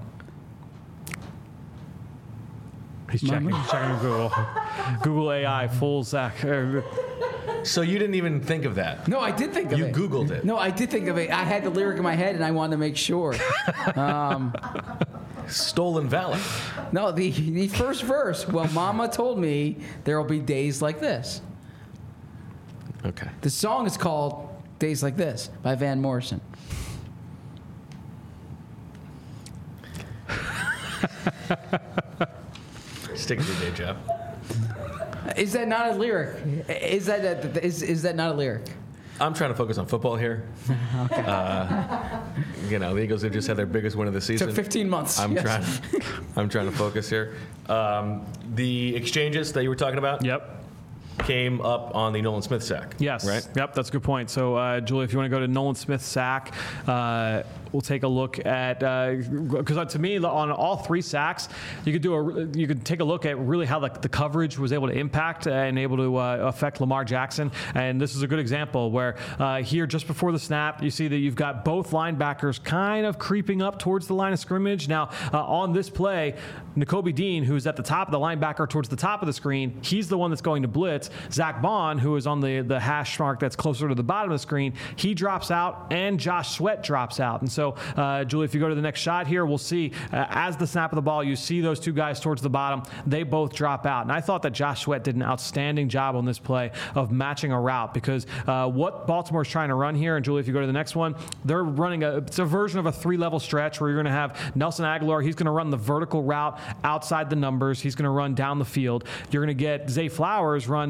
He's checking. Mama? He's checking Google. Google A I full Zach. uh, So you didn't even think of that. No, I did think of You it. Googled it. No, I did think of it. I had the lyric in my head, and I wanted to make sure. Um, Stolen valor. no, the the first verse. Well, Mama told me there will be days like this. Okay. The song is called "Days Like This" by Van Morrison. Stick to your day job. Is that not a lyric? Is that a, is is that not a lyric? I'm trying to focus on football here. Okay. Uh, you know, the Eagles have just had their biggest win of the season. Took fifteen months. I'm Yes. trying. I'm trying to focus here. Um, the exchanges that you were talking about. Yep. Came up on the Nolan Smith sack. Yes. Right. Yep. That's a good point. So, uh, Julie, if you want to go to Nolan Smith's sack, uh, we'll take a look at because uh, to me, on all three sacks, you could do a you could take a look at really how the, the coverage was able to impact and able to uh, affect Lamar Jackson. And this is a good example where uh, here just before the snap, you see that you've got both linebackers kind of creeping up towards the line of scrimmage. Now, uh, on this play, Nakobe Dean, who's at the top of the linebacker towards the top of the screen, he's the one that's going to blitz. Zach Bond, who is on the, the hash mark that's closer to the bottom of the screen, he drops out, and Josh Sweat drops out. And so, uh, Julie, if you go to the next shot here, we'll see uh, as the snap of the ball, you see those two guys towards the bottom. They both drop out. And I thought that Josh Sweat did an outstanding job on this play of matching a route because uh, what Baltimore's trying to run here, and Julie, if you go to the next one, they're running a, it's a version of a three-level stretch where you're going to have Nelson Aguilar. He's going to run the vertical route outside the numbers. He's going to run down the field. You're going to get Zay Flowers run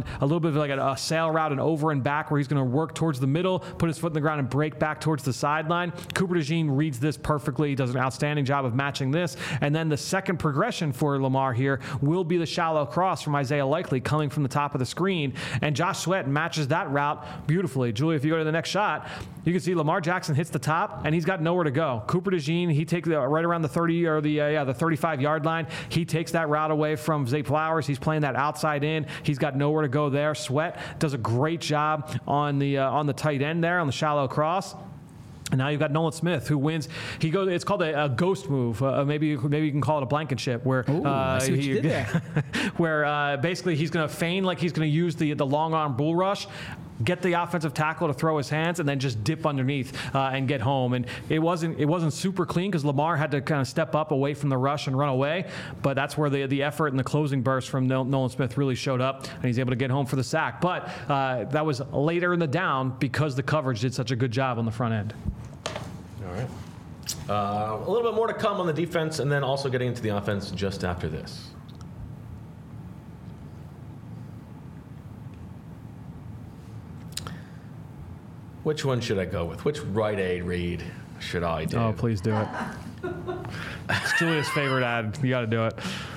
run a little bit of like a, a sail route and over and back where he's going to work towards the middle, put his foot in the ground and break back towards the sideline. Cooper DeJean reads this perfectly. He does an outstanding job of matching this. And then the second progression for Lamar here will be the shallow cross from Isaiah Likely coming from the top of the screen. And Josh Sweat matches that route beautifully. Julie, if you go to the next shot, you can see Lamar Jackson hits the top and he's got nowhere to go. Cooper DeJean, he takes uh, right around the thirty or the uh, yeah the thirty-five yard line. He takes that route away from Zay Flowers. He's playing that outside in. He's got nowhere to go there. Sweat does a great job on the uh, on the tight end there on the shallow cross. And now you've got Nolan Smith, who wins. He goes. It's called a, a ghost move. Uh, maybe maybe you can call it a blankenship, where Ooh, uh, I see what he, you did there. where uh, basically he's going to feign like he's going to use the the long arm bull rush, get the offensive tackle to throw his hands, and then just dip underneath uh, and get home. And it wasn't it wasn't super clean because Lamar had to kind of step up away from the rush and run away. But that's where the the effort and the closing burst from Nolan Smith really showed up, and he's able to get home for the sack. But uh, that was later in the down because the coverage did such a good job on the front end. All right. Uh, a little bit more to come on the defense, and then also getting into the offense just after this. Which one should I go with? Which Rite Aid read should I do? Oh, please do it. It's Julia's favorite ad. You got to do it.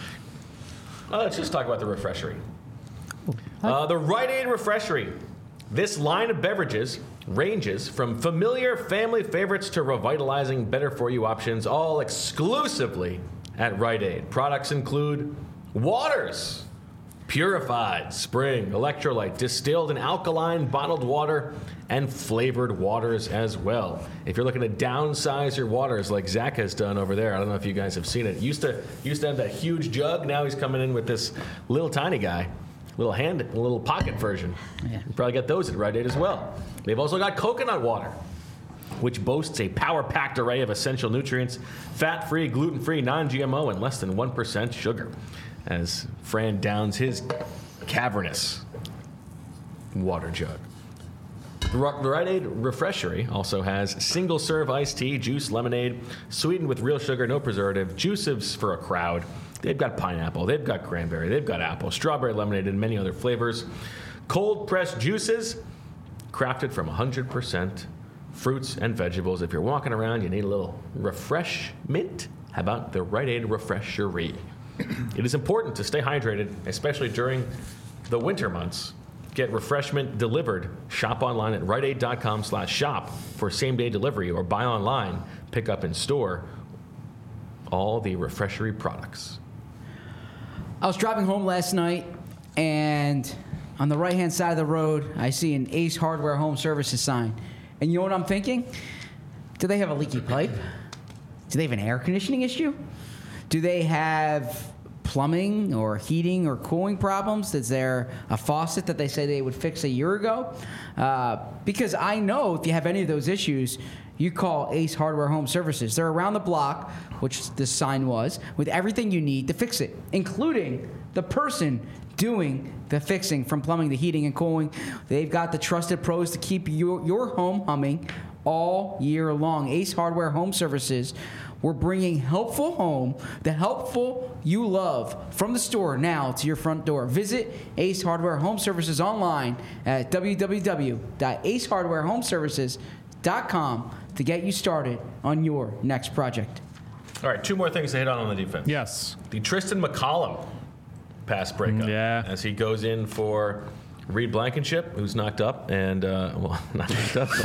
Uh, let's just talk about the Refreshery. Uh, the Rite Aid Refreshery. This line of beverages ranges from familiar family favorites to revitalizing better-for-you options, all exclusively at Rite Aid. Products include waters, purified, spring, electrolyte, distilled and alkaline bottled water, and flavored waters as well. If you're looking to downsize your waters like Zach has done over there, I don't know if you guys have seen it. Used to used to have that huge jug. Now he's coming in with this little tiny guy. Little hand, a little pocket version. Yeah. You probably get those at Rite Aid as well. They've also got coconut water, which boasts a power-packed array of essential nutrients, fat-free, gluten-free, non-G M O, and less than one percent sugar. As Fran downs his cavernous water jug. The Rite Aid Refreshery also has single-serve iced tea, juice, lemonade, sweetened with real sugar, no preservative, juices for a crowd. They've got pineapple, they've got cranberry, they've got apple, strawberry lemonade, and many other flavors. Cold-pressed juices crafted from one hundred percent fruits and vegetables. If you're walking around, you need a little refreshment. How about the Rite Aid Refreshery? It is important to stay hydrated, especially during the winter months. Get refreshment delivered. Shop online at rite aid dot com slash shop for same-day delivery, or buy online, pick up in store. All the Refreshery products. I was driving home last night, and on the right-hand side of the road, I see an Ace Hardware Home Services sign. And you know what I'm thinking? Do they have a leaky pipe? Do they have an air conditioning issue? Do they have plumbing or heating or cooling problems? Is there a faucet that they say they would fix a year ago? Uh, because I know if you have any of those issues, you call Ace Hardware Home Services. They're around the block, which this sign was, with everything you need to fix it, including the person doing the fixing, from plumbing to heating and cooling. They've got the trusted pros to keep your, your home humming all year long. Ace Hardware Home Services. We're bringing helpful home, the helpful you love, from the store now to your front door. Visit Ace Hardware Home Services online at w w w dot ace hardware home services dot com to get you started on your next project. All right, two more things to hit on on the defense. Yes. The Tristan McCollum pass breakup. Yeah. As he goes in for Reed Blankenship, who's knocked up, and, uh, well, not knocked up.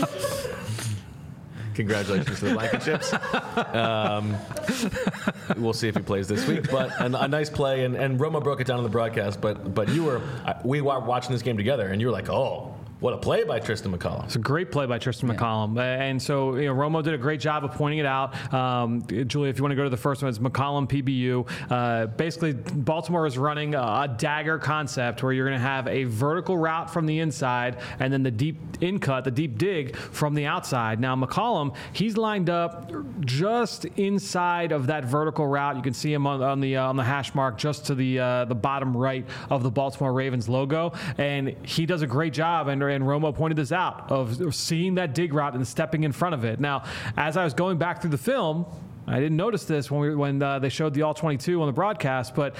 Congratulations to the Blankenships. Um, we'll see if he plays this week. But a, a nice play, and, and Romo broke it down on the broadcast. But but you were we were watching this game together, and you were like, oh, what a play by Tristan McCollum. It's a great play by Tristan yeah. McCollum. And so, you know, Romo did a great job of pointing it out. Um, Julie, if you want to go to the first one, it's McCollum P B U. Uh, basically, Baltimore is running a, a dagger concept where you're going to have a vertical route from the inside and then the deep in cut, the deep dig from the outside. Now, McCollum, he's lined up just inside of that vertical route. You can see him on, on the uh, on the hash mark just to the uh, the bottom right of the Baltimore Ravens logo. And he does a great job. And And Romo pointed this out, of seeing that dig route and stepping in front of it. Now, as I was going back through the film, I didn't notice this when we when uh, they showed the all twenty-two on the broadcast, but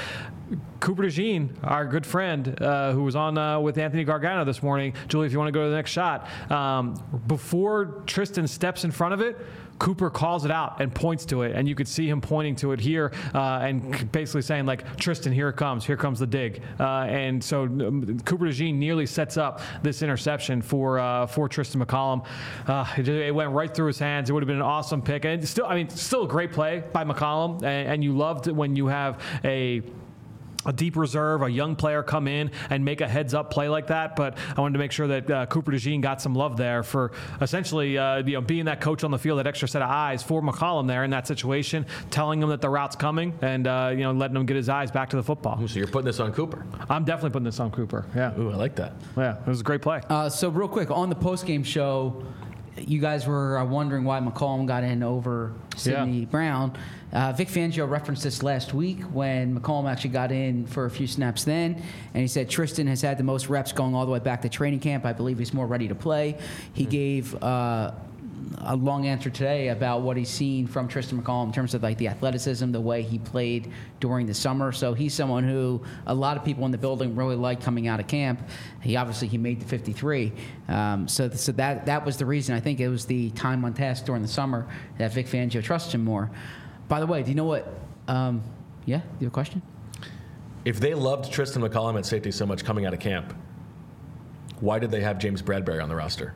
Cooper DeJean, our good friend, uh, who was on uh, with Anthony Gargano this morning. Julie, if you want to go to the next shot, um, before Tristan steps in front of it, Cooper calls it out and points to it, and you could see him pointing to it here uh, and basically saying, like, Tristan, here it comes. Here comes the dig. Uh, and so um, Cooper DeJean nearly sets up this interception for uh, for Tristan McCollum. Uh, it, just, it went right through his hands. It would have been an awesome pick. And still, I mean, still a great play by McCollum, and, and you loved when you have a a deep reserve, a young player come in and make a heads-up play like that. But I wanted to make sure that uh, Cooper DeJean got some love there for essentially uh, you know, being that coach on the field, that extra set of eyes for McCollum there in that situation, telling him that the route's coming and uh, you know letting him get his eyes back to the football. So you're putting this on Cooper? I'm definitely putting this on Cooper. Yeah. Ooh, I like that. Yeah, it was a great play. Uh, so real quick, on the post-game show, you guys were uh, wondering why McCollum got in over Sidney Yeah. Brown. Uh, Vic Fangio referenced this last week when McCollum actually got in for a few snaps then, and he said Tristan has had the most reps going all the way back to training camp. I believe he's more ready to play. He mm-hmm. gave uh, a long answer today about what he's seen from Tristan McCollum in terms of like the athleticism, the way he played during the summer. So he's someone who a lot of people in the building really liked coming out of camp. He obviously he made the fifty-three. Um, so so that that was the reason. I think it was the time on task during the summer that Vic Fangio trusted him more. By the way, do you know what? Um, yeah, you have a question? If they loved Tristan McCollum at safety so much coming out of camp, why did they have James Bradbury on the roster?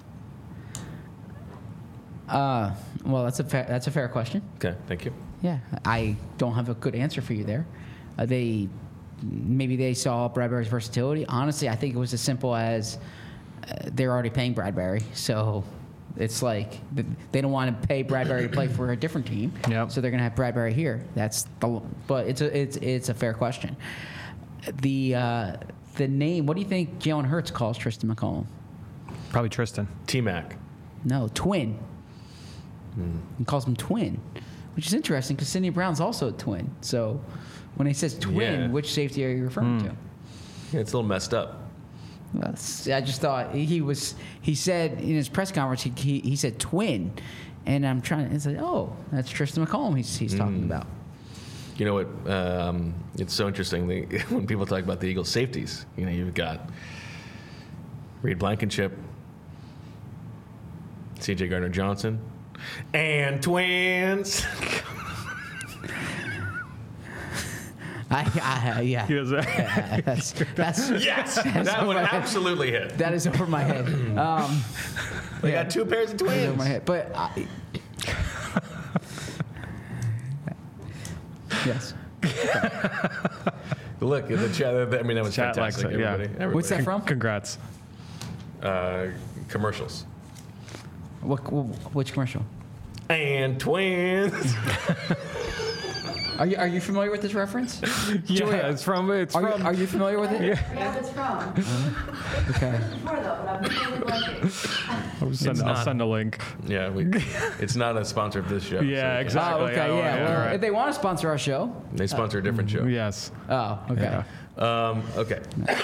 Uh, well, that's a fair, that's a fair question. Okay, thank you. Yeah, I don't have a good answer for you there. Uh, they maybe they saw Bradbury's versatility. Honestly, I think it was as simple as uh, they're already paying Bradbury, so. It's like they don't want to pay Bradbury to play for a different team, yep. so they're going to have Bradbury here. That's the, but it's a it's it's a fair question. The uh, the name. What do you think Jalen Hurts calls Tristan McCollum? Probably Tristan. T-Mac. No, twin. Hmm. He calls him twin, which is interesting because Sidney Brown's also a twin. So when he says twin, Yeah. which safety are you referring Hmm. to? Yeah, it's a little messed up. That's, I just thought he was. He said in his press conference, he he, he said twin, and I'm trying to say, oh, that's Tristan McCollum. He's he's talking Mm. about. You know what? Um, it's so interesting the, when people talk about the Eagles' safeties. You know, you've got Reed Blankenship, C J Gardner-Johnson, and twins. I, I yeah. He was, yeah that's, that's Yes, that's that over one my head. absolutely hit. That is over my head. Um, They yeah, got two pairs of that is over twins. my head. But I, yes. Look at the chat. I mean, that was Chat likes fantastic. it, yeah. Everybody, everybody. What's that from? Congrats. Uh, commercials. What, which commercial? And twins. Are you are you familiar with this reference? Yeah, Julia, it's from. It's Are from. you, are you familiar with it? Yeah. Yeah, it's from. Okay. Before though, but I'm really blanking. I'll send, I'll not. send a link. Yeah, we, it's not a sponsor of this show. Yeah, so- exactly. Oh, okay, Oh, yeah. yeah, Well, all right. if they want to sponsor our show. They sponsor a different show. Yes. Oh, okay. Yeah. Um, okay.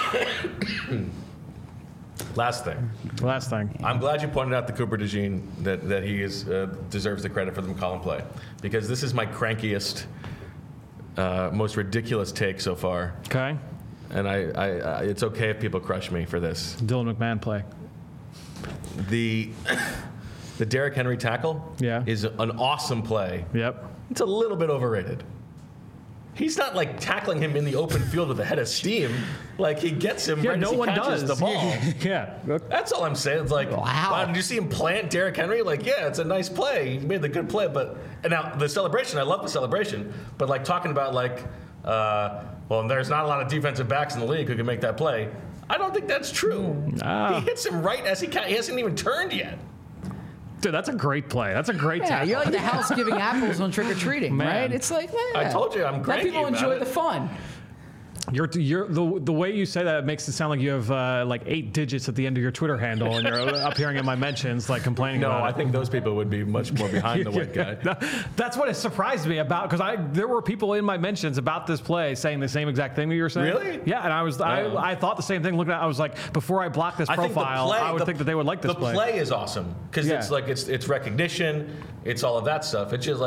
Last thing. Last thing. I'm glad you pointed out to Cooper DeJean that, that he is, uh, deserves the credit for the McCollum play, because this is my crankiest, uh, most ridiculous take so far. Okay. And I, I, I, it's okay if people crush me for this. Dylan McMahon play. The, the Derrick Henry tackle Yeah. is an awesome play. Yep. It's a little bit overrated. He's not like tackling him in the open field with a head of steam. Like he gets him Yeah, right no as he one catches does. the ball. Yeah. That's all I'm saying. It's like, Wow. wow, did you see him plant Derrick Henry? Like, yeah, it's a nice play. He made the good play, but and now the celebration, I love the celebration, but like talking about like, uh, well, there's not a lot of defensive backs in the league who can make that play. I don't think that's true. Ah. He hits him right as he ca- he hasn't even turned yet. Dude, that's a great play. That's a great Yeah, tackle. you're like the house giving apples on trick or treating, Man. right? It's like, yeah. I told you, I'm Let cranky people about enjoy it. the fun. You're, you're the the way you say that makes it sound like you have uh, like eight digits at the end of your Twitter handle, and you're appearing in my mentions, like complaining No, about I it. think those people would be much more behind the white guy. That- That's what it surprised me about, because I there were people in my mentions about this play saying the same exact thing that you were saying. Really? Yeah, and I was Oh. I, I thought the same thing. Looking at, it, I was like, before I block this I think the profile, play- I would the- think that they would like this the play. play is awesome because Yeah. it's like it's it's recognition, it's all of that stuff. It's just like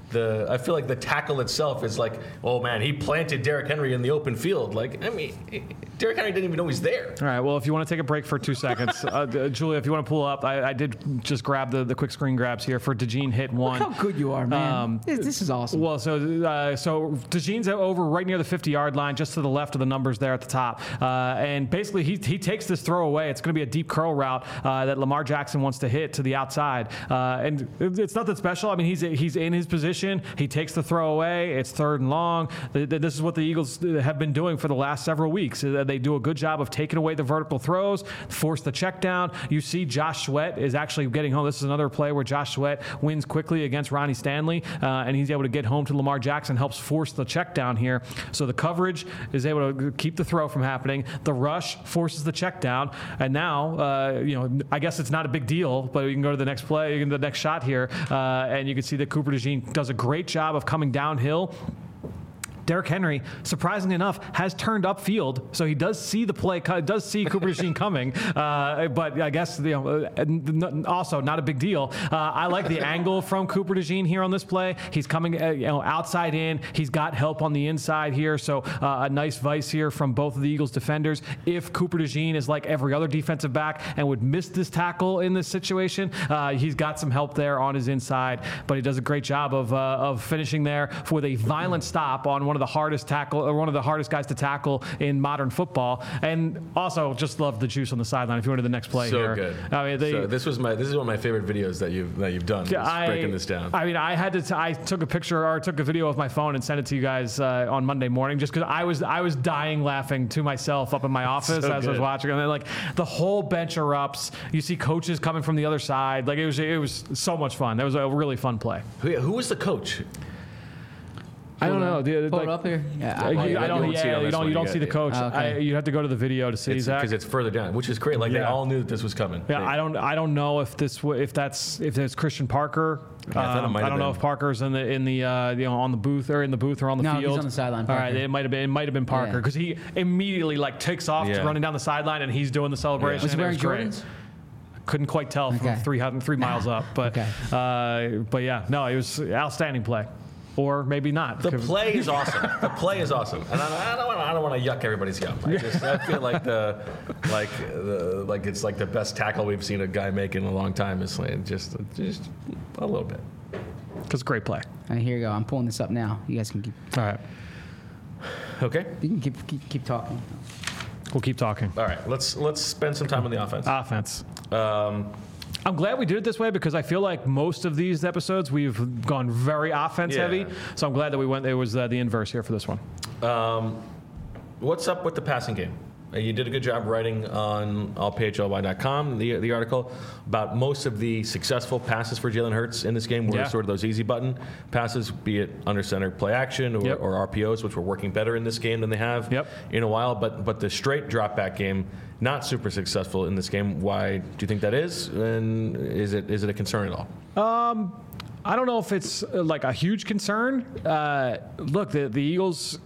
the I feel like the tackle itself is like, oh man, he planted Derrick Henry in the open field. Like, I mean, Derrick Henry didn't even know he's there. All right, well, if you want to take a break for two seconds, uh, uh, Julia, if you want to pull up, I, I did just grab the, the quick screen grabs here for DeJean hit one. Look how good you are, man. Um, this, this is awesome. Well, so uh, so DeJean's over right near the fifty-yard line, just to the left of the numbers there at the top. Uh, and basically, he, he takes this throw away. It's going to be a deep curl route uh, that Lamar Jackson wants to hit to the outside. Uh, and it's nothing special. I mean, he's he's in his position. He takes the throw away. It's third and long. This is what the Eagles have been doing for the last several weeks. They do a good job of taking away the vertical throws, force the check down. You see Josh Sweat is actually getting home. This is another play where Josh Sweat wins quickly against Ronnie Stanley, uh, and he's able to get home to Lamar Jackson, helps force the check down here. So the coverage is able to keep the throw from happening. The rush forces the check down, and now, uh, you know, I guess it's not a big deal, but you can go to the next play, you can the next shot here, uh, and you can see that Cooper DeJean does a great job of coming downhill. Derrick Henry, surprisingly enough, has turned upfield, so he does see the play, does see Cooper DeJean coming, uh, but I guess, you know, also not a big deal. Uh, I like the angle from Cooper DeJean here on this play. He's coming, uh, you know, outside in. He's got help on the inside here, so uh, a nice vice here from both of the Eagles defenders. If Cooper DeJean is like every other defensive back and would miss this tackle in this situation, uh, he's got some help there on his inside, but he does a great job of, uh, of finishing there with a violent stop on one of the hardest tackle, or one of the hardest guys to tackle in modern football, and also just love the juice on the sideline. If you went to the next play so here, good. I mean, they, so this was my this is one of my favorite videos that you've that you've done. is I, breaking this down. I mean, I had to. T- I took a picture or took a video of my phone and sent it to you guys uh, on Monday morning, just because I was I was dying laughing to myself up in my office So as I was good. watching, and then like the whole bench erupts. You see coaches coming from the other side. Like it was it was so much fun. That was a really fun play. Who, who was the coach? I don't know. The, Pull like, it up here. Yeah, Uh, I, you, you I don't. won't see it Yeah, on you this don't. one. You You don't got see the it. coach. Oh, okay. I, you have to go to the video to see Zach. Because it's further down, which is great. Like they Yeah. all knew that this was coming. Yeah, They- I don't. I don't know if this. w- If that's. If there's Christian Parker. Yeah, I thought it Um, might I have don't know been. if Parker's in the in the uh, you know on the booth or in the booth or on the No, he's field. on the sideline, All right, Parker. it might have been. It might have been Parker Yeah. because he immediately like takes off, Yeah. running down the sideline, and he's doing the celebration. Was he and it wearing great. Jordans? Couldn't quite tell from Okay. three hundred three miles up, but Okay. uh, but yeah, no, it was outstanding play, or maybe not. The play is awesome. The play is awesome, and I, I don't want. I don't want to yuck everybody's yum. I just I feel like the like the like it's like the best tackle we've seen a guy make in a long time. Is like just just a little bit. Because great play. All right, here you go. I'm pulling this up now. You guys can keep. All right, Okay. You can keep keep, keep talking. we'll keep talking. All right. Let's let's spend some time on the offense. Offense. Um, I'm glad we did it this way because I feel like most of these episodes we've gone very offense Yeah. heavy. So I'm glad that we went. It was uh, the inverse here for this one. um, what's up with the passing game? Uh, You did a good job writing on all P H L Y dot com, the, the article, about most of the successful passes for Jalen Hurts in this game were Yeah. sort of those easy button passes, be it under center play action or, Yep. or R P Os, which were working better in this game than they have Yep. in a while. But but the straight drop back game, not super successful in this game. Why do you think that is? And is it is it a concern at all? I don't know if it's uh, like a huge concern. Uh, look, the, the Eagles.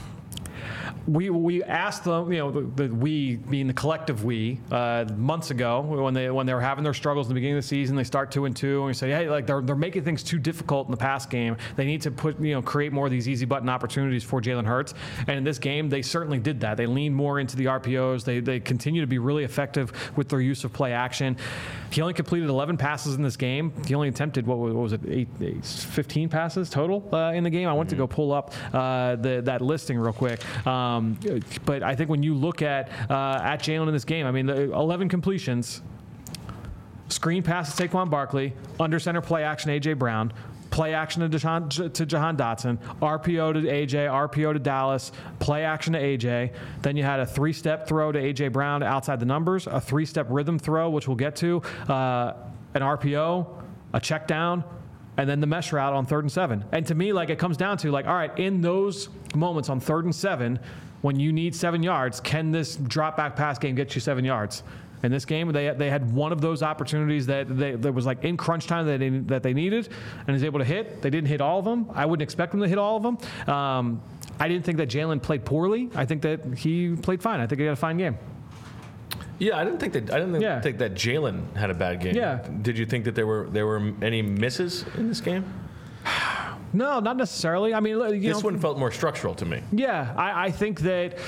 We we asked them, you know, the, the we being the collective we, uh, months ago when they when they were having their struggles in the beginning of the season. They start two and two, and we say, hey, like they're they're making things too difficult in the pass game. They need to put you know create more of these easy button opportunities for Jalen Hurts. And in this game, they certainly did that. They leaned more into the R P Os. They they continue to be really effective with their use of play action. He only completed eleven passes in this game. He only attempted what was, what was it, eight, eight, fifteen passes total uh, in the game. I went to go pull up uh, the, that listing real quick. Um, but I think when you look at uh, at Jalen in this game, I mean, the eleven completions, screen pass to Saquon Barkley, under center play action A J Brown, play action to, Deshaun, to Jahan Dotson, R P O to A J, R P O to Dallas, play action to A J. Then you had a three-step throw to A J Brown outside the numbers, a three-step rhythm throw, which we'll get to, uh, an R P O, a check down, and then the mesh route on third and seven. And to me, like it comes down to like, all right, in those moments on third and seven, when you need seven yards, can this drop back pass game get you seven yards? In this game, they they had one of those opportunities that they, that was like in crunch time that they, that they needed, and is able to hit. They didn't hit all of them. I wouldn't expect them to hit all of them. Um, I didn't think that Jalen played poorly. I think that he played fine. I think he had a fine game. Yeah, I didn't think that. I didn't Yeah. think that Jalen had a bad game. Yeah. Did you think that there were there were any misses in this game? No, not necessarily. I mean, you This know, one felt more structural to me. Yeah, I, I think that.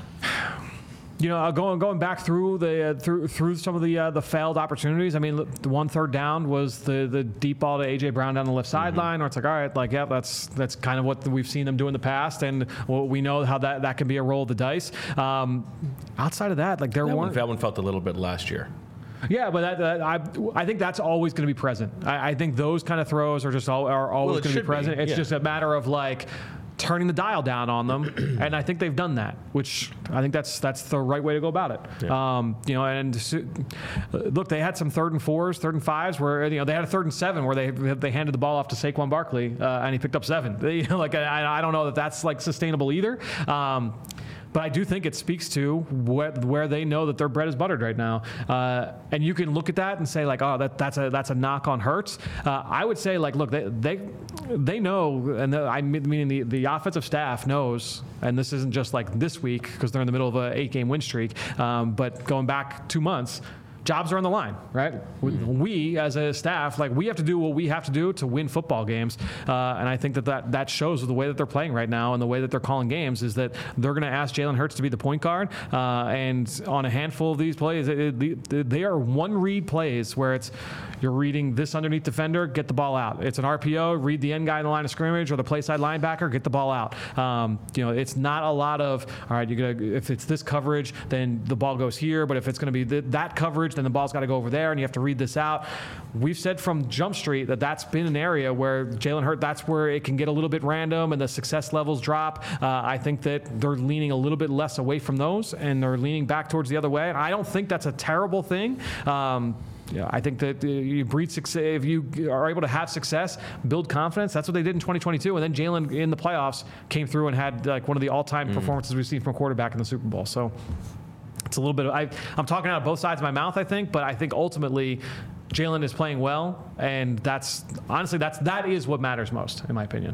You know, going going back through the uh, through through some of the uh, the failed opportunities. I mean, the one third down was the the deep ball to A J Brown down the left sideline, where it's like, all right, like yeah, that's that's kind of what we've seen them do in the past, and well, we know how that, that can be a roll of the dice. Um, outside of that, like there That one, weren't. that one felt a little bit last year. Yeah, but that, that, I I think that's always going to be present. I, I think those kind of throws are just all, are always Well, it going to should be present. be, It's yeah. just a matter of like turning the dial down on them, and I think they've done that, which I think that's that's the right way to go about it. Yeah. Um, you know, and so- look, they had some third and fours, third and fives, where you know they had a third and seven where they they handed the ball off to Saquon Barkley, uh, and he picked up seven. They, you know, like I, I don't know that that's like sustainable either. Um, But I do think it speaks to where, where they know that their bread is buttered right now, uh, and you can look at that and say like, oh, that, that's a that's a knock on Hurts. Uh, I would say like, look, they they, they know, and the, I mean the the offensive staff knows, and this isn't just like this week because they're in the middle of an eight game win streak, um, but going back two months. Jobs are on the line, right? We, as a staff, like we have to do what we have to do to win football games, uh, and I think that, that that shows with the way that they're playing right now and the way that they're calling games is that they're going to ask Jalen Hurts to be the point guard, uh, and on a handful of these plays, it, it, they are one read plays where it's you're reading this underneath defender, get the ball out. It's an R P O, read the end guy in the line of scrimmage or the play side linebacker, get the ball out. Um, you know, it's not a lot of all right. You're gonna if it's this coverage, then the ball goes here, but if it's going to be th- that coverage, then the ball's got to go over there, and you have to read this out. We've said from Jump Street that that's been an area where Jalen Hurts, that's where it can get a little bit random and the success levels drop. Uh, I think that they're leaning a little bit less away from those, and they're leaning back towards the other way. And I don't think that's a terrible thing. Um, Yeah, I think that uh, you breed success. If you are able to have success, build confidence. That's what they did in twenty twenty-two. And then Jalen in the playoffs came through and had like one of the all-time mm. performances we've seen from a quarterback in the Super Bowl. So it's a little bit of, I, I'm talking out of both sides of my mouth, I think, but I think ultimately Jalen is playing well. And that's honestly, that's, that is what matters most, in my opinion.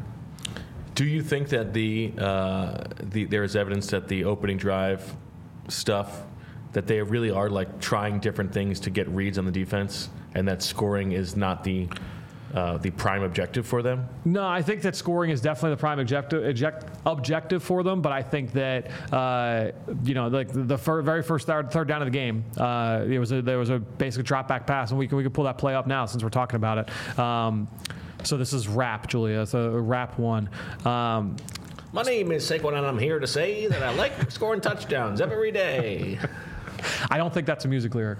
Do you think that the, uh, the there is evidence that the opening drive stuff, that they really are like trying different things to get reads on the defense, and that scoring is not the uh, the prime objective for them? No, I think that scoring is definitely the prime objective object, objective for them. But I think that uh, you know, like the, the fir- very first third, third down of the game, uh, it was a, there was a basic drop back pass, and we can we can pull that play up now since we're talking about it. Um, so this is Rap, Julia. It's a Rap one. Um, My name is Saquon, and I'm here to say that I like scoring touchdowns every day. I don't think that's a music lyric.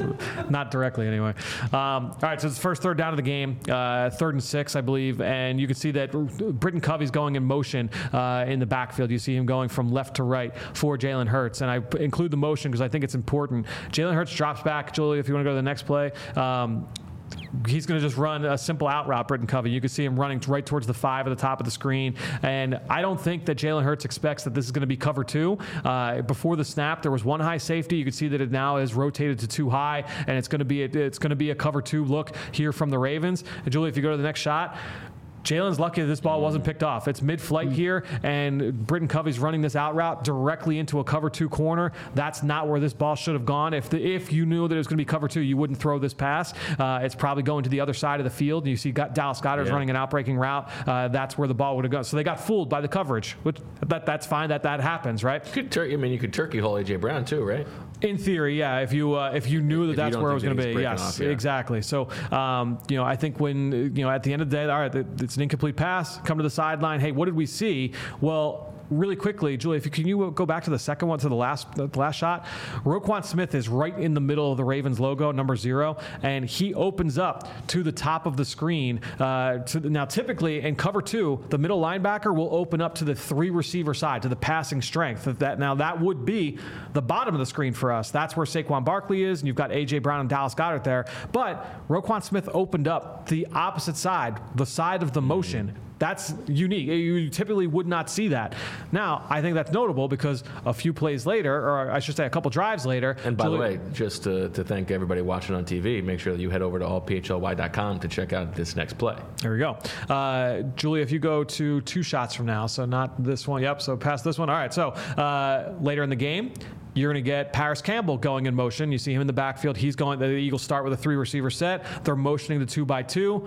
Not directly, anyway. Um, all right, so it's the first third down of the game, uh, third and six, I believe, and you can see that Britton Covey's going in motion uh, in the backfield. You see him going from left to right for Jalen Hurts, and I p- include the motion because I think it's important. Jalen Hurts drops back. Julie, if you want to go to the next play. Um, He's going to just run a simple out route, Britton Covey. You can see him running right towards the five at the top of the screen. And I don't think that Jalen Hurts expects that this is going to be cover two. Uh, before the snap, there was one high safety. You can see that it now is rotated to two high, and it's going to be a, it's going to be a cover two look here from the Ravens. And Julie, if you go to the next shot, Jalen's lucky that this ball wasn't picked off. It's mid-flight here, and Britton Covey's running this out route directly into a cover two corner. That's not where this ball should have gone. If the, if you knew that it was going to be cover two, you wouldn't throw this pass. Uh, it's probably going to the other side of the field. You see got Dallas Goedert's Yeah. running an outbreaking route. Uh, that's where the ball would have gone. So they got fooled by the coverage. Which, that, that's fine. That that happens, right? You could tur- I mean, you could turkey hole A J Brown too, right? In theory, yeah. If you uh, if you knew that If you that's don't where it was think going that to he's be, breaking yes, off, yeah. exactly. So, um, you know, I think when you know at the end of the day, all right, it's an incomplete pass. Come to the sideline. Hey, what did we see? Well, really quickly, Julie, if you can you go back to the second one to the last the last shot. Roquan Smith is right in the middle of the Ravens logo, number zero, and he opens up to the top of the screen. Uh, to the, now, typically in cover two, the middle linebacker will open up to the three receiver side, to the passing strength. That, that now that would be the bottom of the screen for us. That's where Saquon Barkley is, and you've got A J Brown and Dallas Goedert there. But Roquan Smith opened up the opposite side, the side of the motion. That's unique. You typically would not see that. Now, I think that's notable because a few plays later, or I should say a couple drives later. And by Julie- the way, just to, to thank everybody watching on T V, make sure that you head over to all P H L Y dot com to check out this next play. There we go. Uh, Julia, if you go to two shots from now, so not this one. Yep, so past this one. All right, so uh, later in the game, you're going to get Paris Campbell going in motion. You see him in the backfield. He's going, the Eagles start with a three receiver set. They're motioning the two by two.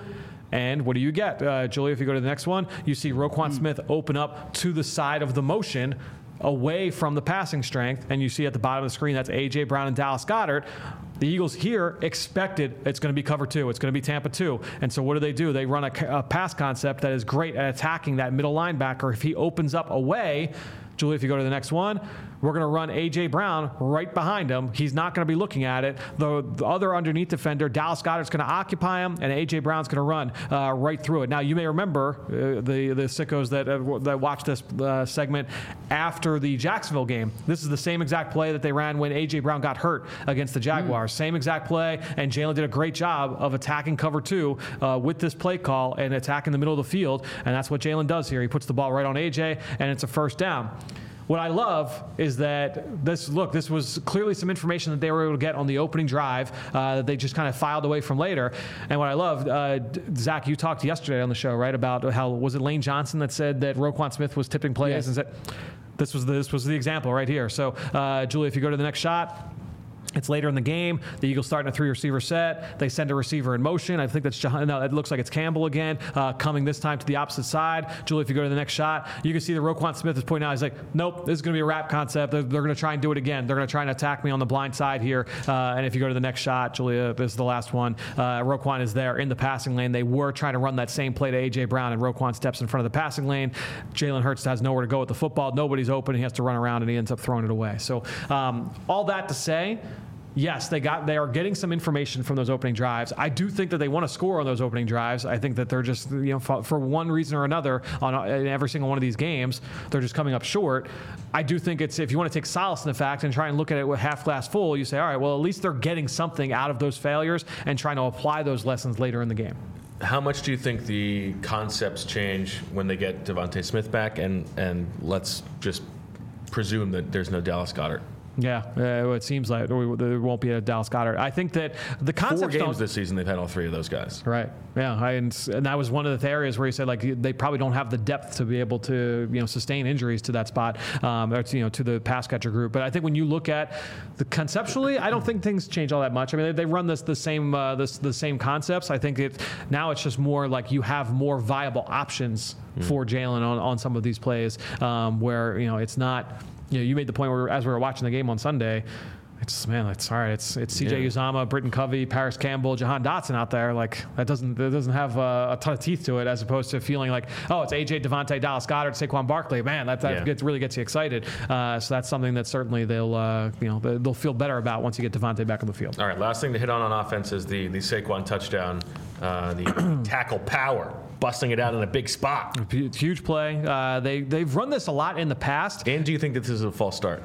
And what do you get? Uh, Julia, if you go to the next one, you see Roquan Smith open up to the side of the motion away from the passing strength. And you see at the bottom of the screen, that's A J. Brown and Dallas Goedert. The Eagles here expected it's going to be cover two. It's going to be Tampa two. And so what do they do? They run a, a pass concept that is great at attacking that middle linebacker. If he opens up away, Julie, if you go to the next one, we're going to run A J. Brown right behind him. He's not going to be looking at it. The, the other underneath defender, Dallas Goedert's going to occupy him, and A J. Brown's going to run uh, right through it. Now, you may remember uh, the the sickos that uh, that watched this uh, segment after the Jacksonville game. This is the same exact play that they ran when A J. Brown got hurt against the Jaguars. Mm. Same exact play, and Jalen did a great job of attacking cover two uh, with this play call and attacking the middle of the field, and that's what Jalen does here. He puts the ball right on A J, and it's a first down. What I love is that this, look, this was clearly some information that they were able to get on the opening drive uh, that they just kind of filed away from later. And what I love, uh, Zach, you talked yesterday on the show, right, about how, was it Lane Johnson that said that Roquan Smith was tipping plays? Yes. And said, this was, the, this was the example right here. So, uh, Julie, if you go to the next shot. It's later in the game. The Eagles starting a three-receiver set. They send a receiver in motion. I think that's Jah- no. It looks like it's Campbell again, uh, coming this time to the opposite side. Julie, if you go to the next shot, you can see that Roquan Smith is pointing out. He's like, "Nope, this is going to be a wrap concept. They're, they're going to try and do it again. They're going to try and attack me on the blind side here." Uh, and if you go to the next shot, Julia, this is the last one. Uh, Roquan is there in the passing lane. They were trying to run that same play to A J. Brown, and Roquan steps in front of the passing lane. Jalen Hurts has nowhere to go with the football. Nobody's open. He has to run around, and he ends up throwing it away. So um, all that to say. Yes, they got. They are getting some information from those opening drives. I do think that they want to score on those opening drives. I think that they're just, you know, for, for one reason or another, on in every single one of these games, they're just coming up short. I do think it's, if you want to take solace in the fact and try and look at it with half glass full, you say, all right, well, at least they're getting something out of those failures and trying to apply those lessons later in the game. How much do you think the concepts change when they get Devontae Smith back? And and let's just presume that there's no Dallas Goedert. Yeah, uh, it seems like there won't be a Dallas Goedert. I think that the concepts Four games don't, this season, they've had all three of those guys. Right. Yeah, I, and, and that was one of the areas where he said like they probably don't have the depth to be able to, you know, sustain injuries to that spot, um, or to, you know, to the pass catcher group. But I think when you look at the conceptually, I don't think things change all that much. I mean, they, they run this the same uh, this the same concepts. I think it now it's just more like you have more viable options mm. for Jalen on, on some of these plays, um, where, you know, it's not. You know, you made the point where, as we were watching the game on Sunday, it's, man, it's all right. It's it's C J yeah. Uzomah, Britton Covey, Paris Campbell, Jahan Dotson out there. Like that doesn't that doesn't have a, a ton of teeth to it, as opposed to feeling like, oh, it's A J, Devontae, Dallas Goedert, Saquon Barkley. Man, that that yeah. gets, really gets you excited. Uh, so that's something that certainly they'll uh, you know they'll feel better about once you get Devontae back on the field. All right, last thing to hit on on offense is the the Saquon touchdown, uh, the tackle power. Busting it out in a big spot. Huge play. Uh, they, they've run this a lot in the past. And do you think that this is a false start?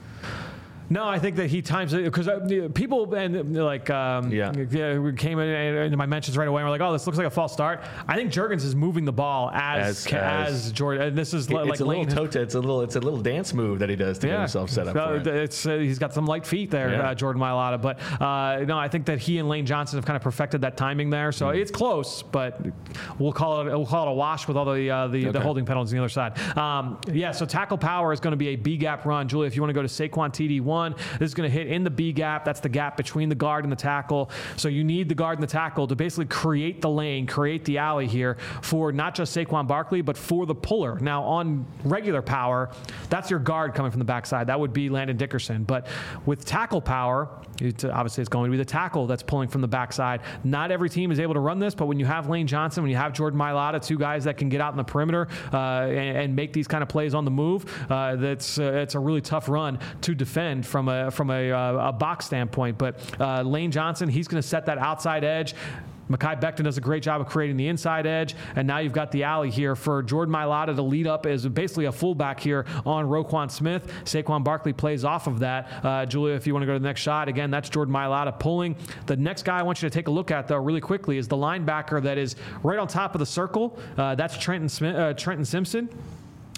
No, I think that he times it because people and like um, yeah. we came in into my mentions right away and we're like, oh, this looks like a false start. I think Jurgens is moving the ball as as, as, as Jordan. And this is it, like it's a Lane. little toe, it's a little it's a little dance move that he does to yeah. get himself set up. For it. It's uh, he's got some light feet there, yeah. uh, Jordan Mailata. But uh, no, I think that he and Lane Johnson have kind of perfected that timing there. So mm. it's close, but we'll call it we'll call it a wash with all the uh, the, okay. the holding penalties on the other side. Um, yeah, so tackle power is going to be a B gap run. Julie, if you want to go to Saquon T D one, this is going to hit in the B gap. That's the gap between the guard and the tackle. So you need the guard and the tackle to basically create the lane, create the alley here for not just Saquon Barkley, but for the puller. Now on regular power, that's your guard coming from the backside. That would be Landon Dickerson. But with tackle power, it's, obviously it's going to be the tackle that's pulling from the backside. Not every team is able to run this, but when you have Lane Johnson, when you have Jordan Mailata, two guys that can get out in the perimeter uh, and, and make these kind of plays on the move, uh, that's uh, it's a really tough run to defend from a from a A, a box standpoint. But uh, Lane Johnson, he's going to set that outside edge. Mekhi Becton does a great job of creating the inside edge, and now you've got the alley here for Jordan Mailata to lead up as basically a fullback here on Roquan Smith. Saquon Barkley plays off of that. Uh, Julia, if you want to go to the next shot, again, that's Jordan Mailata pulling. The next guy I want you to take a look at, though, really quickly, is the linebacker that is right on top of the circle. Uh, that's Trenton Smith, uh, Trenton Simpson.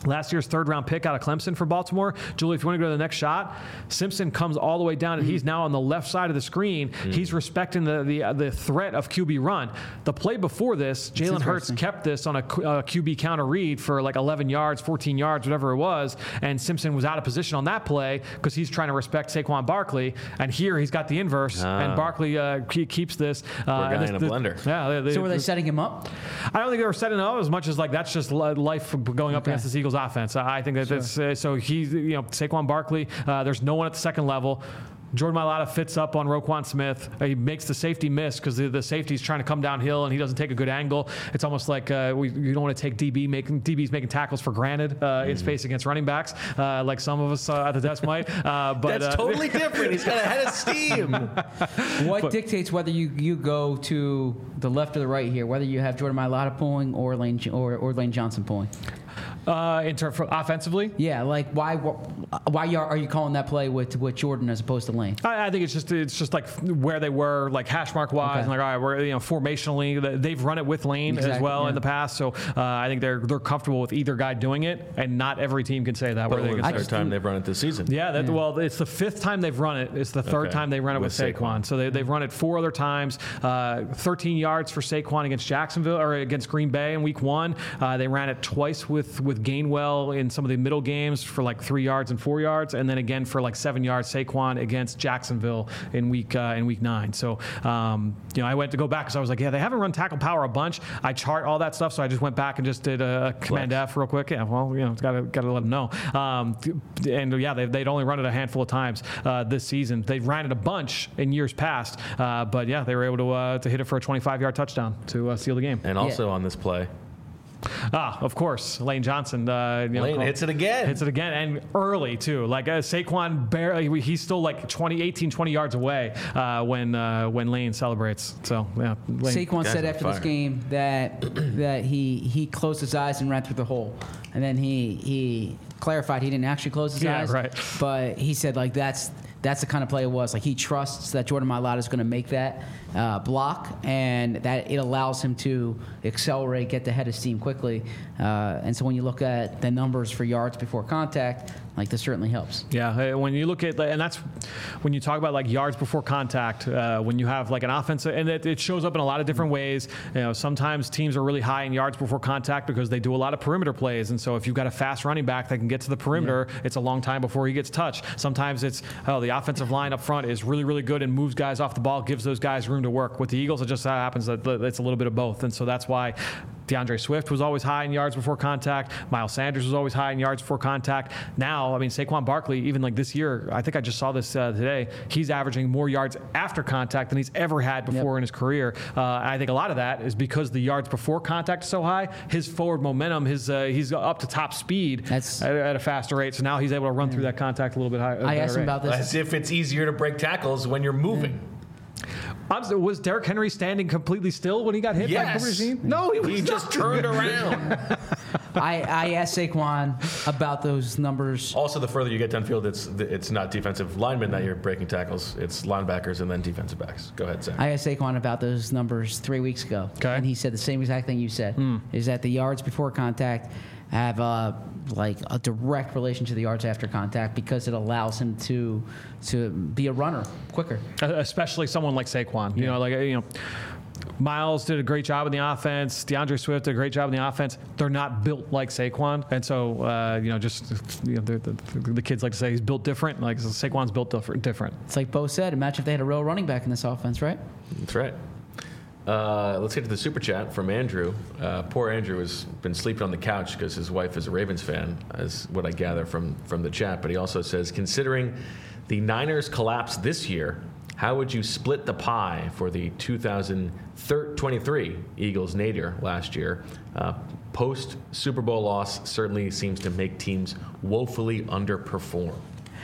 last year's third round pick out of Clemson for Baltimore. Julie, if you want to go to the next shot, Simpson comes all the way down, and he's now on the left side of the screen. Mm. He's respecting the the, uh, the threat of Q B run. The play before this, Jalen Hurts kept this on a uh, Q B counter read for like eleven yards, fourteen yards, whatever it was, and Simpson was out of position on that play because he's trying to respect Saquon Barkley. And here he's got the inverse, ah. and Barkley uh, keeps this. Uh, Poor guy this, in a this, blender. Yeah. They, they, So were they setting him up? I don't think they were setting it up as much as like that's just life going up Okay. against this Eagles offense. I think that Sure. that's uh, so he's you know Saquon Barkley. Uh, there's no one at the second level. Jordan Mailata fits up on Roquan Smith. Uh, he makes the safety miss because the, the safety's trying to come downhill and he doesn't take a good angle. It's almost like uh, we, you don't want to take D B making D Bs making tackles for granted uh, mm-hmm. in space against running backs, uh, like some of us uh, at the desk might. Uh, but That's uh, totally different. He's got a head of steam. What dictates whether you, you go to the left or the right here? Whether you have Jordan Mailata pulling or Lane or, or Lane Johnson pulling? Uh, in terms of offensively, yeah, like why why are you calling that play with with Jordan as opposed to Lane? I, I think it's just it's just like where they were, like hash mark wise, Okay. and like all right, we're you know formationally they've run it with Lane Exactly, as well yeah. in the past, so uh, I think they're they're comfortable with either guy doing it, and not every team can say that. But Where they only can the say, third time they've run it this season. yeah, that, well, it's the fifth time they've run it. It's the third Okay. time they run it with, With Saquon. Saquon. So they, they've run it four other times. Uh, thirteen yards for Saquon against Jacksonville or against Green Bay in Week One. Uh, they ran it twice with with Gainwell in some of the middle games for like three yards and four yards, and then again for like seven yards Saquon against Jacksonville in week uh, in week nine. So um, you know, I went to go back because I was like, yeah, they haven't run tackle power a bunch. I chart all that stuff, so I just went back and just did a Command F real quick. Yeah, well, you know, got to got to let them know. Um, and yeah, they, they'd only run it a handful of times uh, this season. They ran it a bunch in years past, uh, but yeah, they were able to uh, to hit it for a twenty-five yard touchdown to uh, seal the game. And also on this play, Ah, of course, Lane Johnson. Uh, you know, Lane called- hits it again. Hits it again, and early, too. Like, uh, Saquon barely, he's still like twenty, eighteen, twenty yards away uh, when uh, when Lane celebrates. So, yeah. Lane. Saquon Guys said on after this fire. game that that he he closed his eyes and ran through the hole, and then he he clarified he didn't actually close his Yeah, eyes. right. But he said like that's that's the kind of play it was. Like he trusts that Jordan Mailata is going to make that uh, block, and that it allows him to accelerate, get the head of steam quickly. Uh, and so when you look at the numbers for yards before contact, like this certainly helps. Yeah, uh, when you look at, and that's when you talk about like yards before contact, uh, when you have like an offensive, and it, it shows up in a lot of different ways. You know, sometimes teams are really high in yards before contact because they do a lot of perimeter plays, and so if you've got a fast running back that can get to the perimeter, yeah. it's a long time before he gets touched. Sometimes it's, oh, the offensive line up front is really, really good and moves guys off the ball, gives those guys room to work. With the Eagles, it just happens that it's a little bit of both, and so that's why DeAndre Swift was always high in yards before contact. Miles Sanders was always high in yards before contact. Now, I mean, Saquon Barkley, even like this year, I think I just saw this uh, today, he's averaging more yards after contact than he's ever had before yep. in his career. Uh, and I think a lot of that is because the yards before contact is so high, his forward momentum, his uh, he's up to top speed at, at a faster rate. So now he's able to run yeah. through that contact a little bit higher. I asked him rate. about this. As if it's easier to break tackles when you're moving. Yeah. Was Derrick Henry standing completely still when he got hit yes. by Cooper DeJean? No, he, he just turned around. I, I asked Saquon about those numbers. Also, the further you get downfield, it's it's not defensive linemen that you're breaking tackles. It's linebackers and then defensive backs. Go ahead, Zach. I asked Saquon about those numbers three weeks ago. Okay. And he said the same exact thing you said, mm. is that the yards before contact have uh, like a direct relation to the yards after contact because it allows him to to be a runner quicker. Especially someone like Saquon. You yeah. know, like you know, Miles did a great job in the offense. DeAndre Swift did a great job in the offense. They're not built like Saquon, and so uh, you know, just you know, the, the, the kids like to say he's built different. Like Saquon's built different. It's like Bo said. Imagine if they had a real running back in this offense, right? That's right. Uh, let's get to the super chat from Andrew. Uh, poor Andrew has been sleeping on the couch because his wife is a Ravens fan, as what I gather from, from the chat. But he also says, considering the Niners collapse this year, how would you split the pie for the two thousand twenty-three Eagles nadir last year? Uh, Post Super Bowl loss certainly seems to make teams woefully underperform.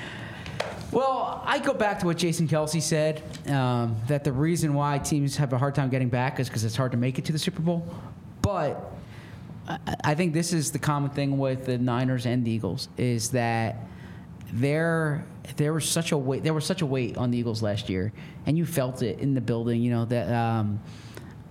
Well, I go back to what Jason Kelsey said, um, that the reason why teams have a hard time getting back is because it's hard to make it to the Super Bowl. But I, I think this is the common thing with the Niners and the Eagles, is that there there was such a weight there was such a weight on the Eagles last year, and you felt it in the building. You know that um,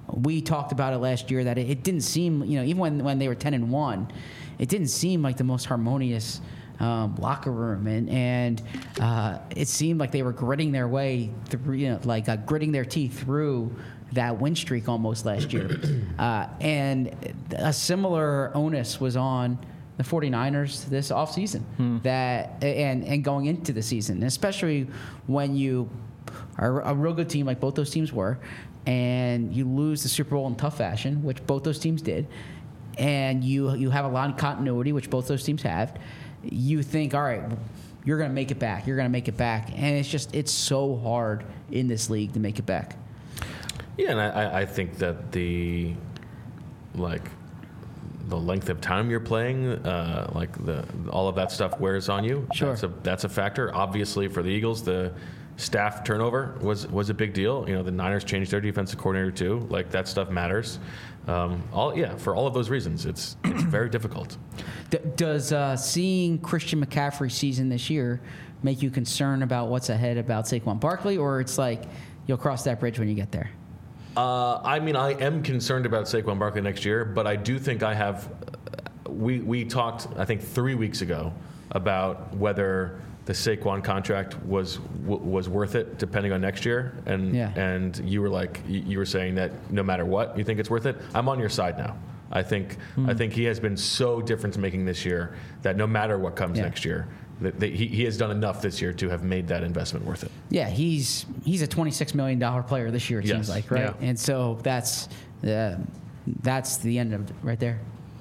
we talked about it last year that it, it didn't seem, you know, even when, when they were ten and one, it didn't seem like the most harmonious um, locker room, and and uh, it seemed like they were gritting their way through, you know, like uh, gritting their teeth through that win streak almost last year. Uh, and a similar onus was on the 49ers this offseason, hmm. that and and going into the season, especially when you are a real good team like both those teams were, and you lose the Super Bowl in tough fashion, which both those teams did, and you you have a lot of continuity, which both those teams have. You think, all right, you're going to make it back. You're going to make it back, and it's just it's so hard in this league to make it back. Yeah, and I, I think that the like the length of time you're playing, uh, like the all of that stuff wears on you. Sure, that's a, that's a factor. Obviously, for the Eagles, the staff turnover was was a big deal. You know, the Niners changed their defensive coordinator too. Like that stuff matters. Um, all yeah, for all of those reasons, it's it's very difficult. D- does uh, seeing Christian McCaffrey's season this year make you concerned about what's ahead about Saquon Barkley, or it's like you'll cross that bridge when you get there? Uh, I mean, I am concerned about Saquon Barkley next year, but I do think I have. We we talked, I think, three weeks ago about whether the Saquon contract was w- was worth it, depending on next year, and yeah. and you were like, you were saying that no matter what, you think it's worth it. I'm on your side now. I think mm. I think he has been so difference making this year that no matter what comes yeah. next year, that, that he he has done enough this year to have made that investment worth it. Yeah, he's he's a twenty-six million dollars player this year, it yes. seems like, right? Yeah. And so that's uh, that's the end of it right there.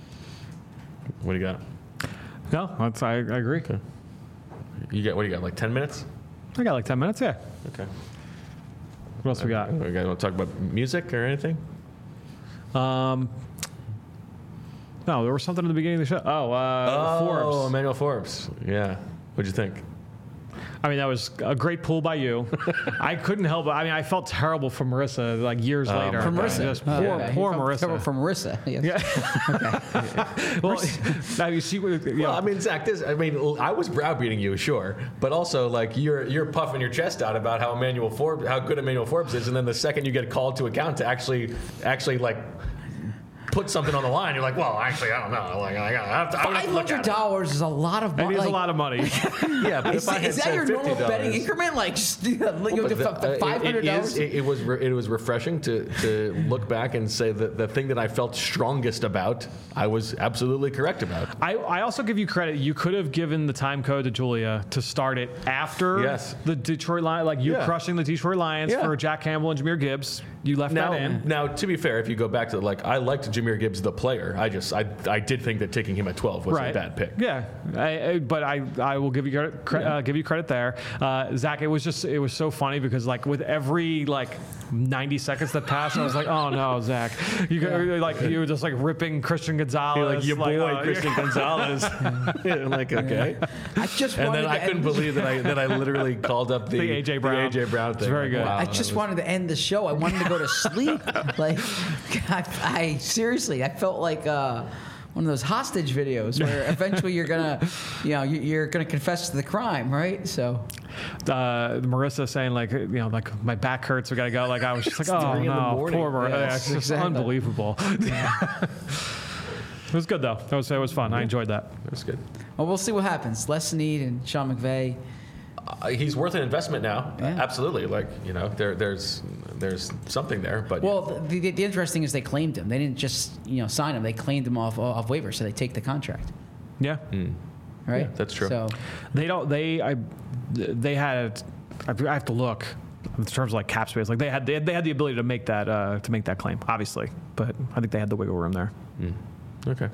What do you got? No, that's, I, I agree. Okay. You got what do you got? Like ten minutes? I got like ten minutes. Yeah. Okay. What else we got? We got want to talk about music or anything? Um. No, there was something in the beginning of the show. Oh, uh, oh, Forbes. Emmanuel Forbes. Yeah. What'd you think? I mean, that was a great pull by you. I couldn't help it. I mean, I felt terrible for Marissa like years Oh, later. my From God. Marissa. Just Oh, poor, okay. poor From- Marissa. From Marissa. Yes. Yeah. Well, now you see what you know, Well, I mean, Zach, this, I mean, I was browbeating you, sure, but also like you're you're puffing your chest out about how Emmanuel Forbes, how good Emmanuel Forbes is, and then the second you get called to account to actually, actually like put something on the line, you're like, well, actually, I don't know. Like, I have to, I have Five to look hundred at it. dollars is a lot of it money. is Like, a lot of money. Yeah, but Is, if I had is that said your normal fifty dollars, betting increment? Like, just, like Well, but the- uh, five hundred it, it, dollars. is, it, it was re- it was refreshing to, to look back and say that the thing that I felt strongest about, I was absolutely correct about. I, I also give you credit. You could have given the time code to Julia to start it after Yes. the Detroit Lions, like you Yeah. crushing the Detroit Lions Yeah. for Jack Campbell and Jameer Gibbs. You left Now, that in. now, to be fair, if you go back to like, I liked Jameer Gibbs the player. I just, I, I did think that taking him at twelve was Right. a bad pick. Yeah, I, I, but I, I will give you credit, cre- uh, give you credit there, uh, Zach. It was just, it was so funny because like with every like ninety seconds that passed, I was like, oh no, Zach, you go, like you were just like ripping Christian Gonzalez, You're like, your boy uh, Christian Gonzalez. Yeah, like, okay. I just And wanted then I to couldn't end- believe that I that I literally called up the, The A J Brown. A J Brown thing. It's very good. Wow, I that just was- wanted to end the show. I wanted to go to sleep. Like, I, I seriously, I felt like uh, one of those hostage videos where eventually you're gonna, you know, you- you're gonna confess to the crime, right? So, uh, Marissa saying like, you know, like my back hurts, we gotta go. Like I was just like, oh three in the no, morning. poor Marissa. Yes, Yeah, it's just exactly. unbelievable. It was good though. That was it was fun. I enjoyed that. That was good. well, we'll see what happens. Les Snead and Sean McVay. Uh, he's worth an investment now. Yeah. Absolutely. Like, you know, there, there's there's something there. But Well, the, the, the interesting is they claimed him. They didn't just you know sign him. They claimed him off off waivers, so they take the contract, Yeah. right? Yeah, that's true. So, They don't. They I. They had. I have to look in terms of like cap space. Like they had. They had, they had the ability to make that. Uh, to make that claim, obviously. But I think they had the wiggle room there. okay.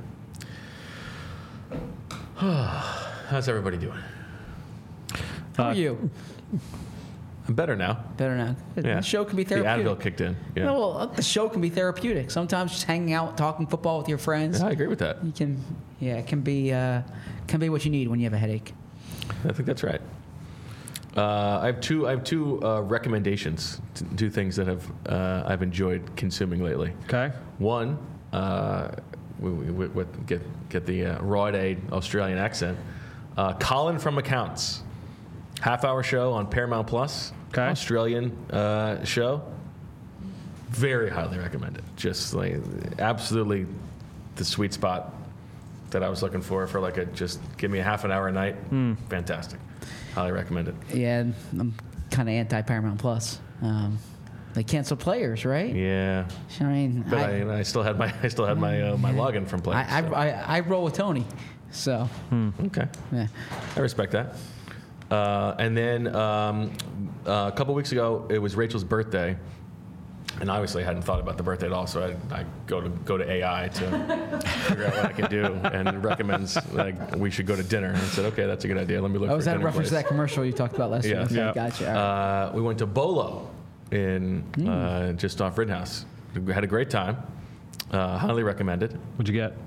How's everybody doing? how Uh, are you? I'm better now. Better now. Yeah. The show can be The therapeutic. Advil kicked in. Yeah. No, well, the show can be therapeutic. Sometimes just hanging out, talking football with your friends. Yeah, I agree with that. You can, yeah, it can be, uh, can be what you need when you have a headache. I think that's right. Uh, I have two. I have two uh, recommendations. To, two things that have uh, I've enjoyed consuming lately. Okay. One, uh, we, we, we, we get get the uh, raw aid Australian accent. Uh, Colin from Accounts, half hour show on Paramount Plus. Okay. Australian uh, show. very highly recommend it. Just like absolutely the sweet spot that I was looking for for like a just give me a half an hour a night. Fantastic. Highly recommend it. Yeah, I'm kind of anti Paramount Plus. Um, they cancel players, right? Yeah. I mean, But I, I, I still had my I still had my uh, my login from Play. I, I, so. I, I roll with Tony. So, Okay. yeah. I respect that. Uh, and then um, uh, a couple weeks ago, it was Rachel's birthday, and obviously I hadn't thought about the birthday at all. So I, I go to go to A I to figure out what I can do, and it recommends like we should go to dinner. And I said, okay, that's a good idea. Let me look. Oh, for was a that a dinner reference place. to that commercial you talked about last Yeah. week? Okay, Yeah. gotcha. All right. Uh, we went to Bolo in uh, just off Rittenhouse. We had a great time. Uh, highly recommended. What'd you get?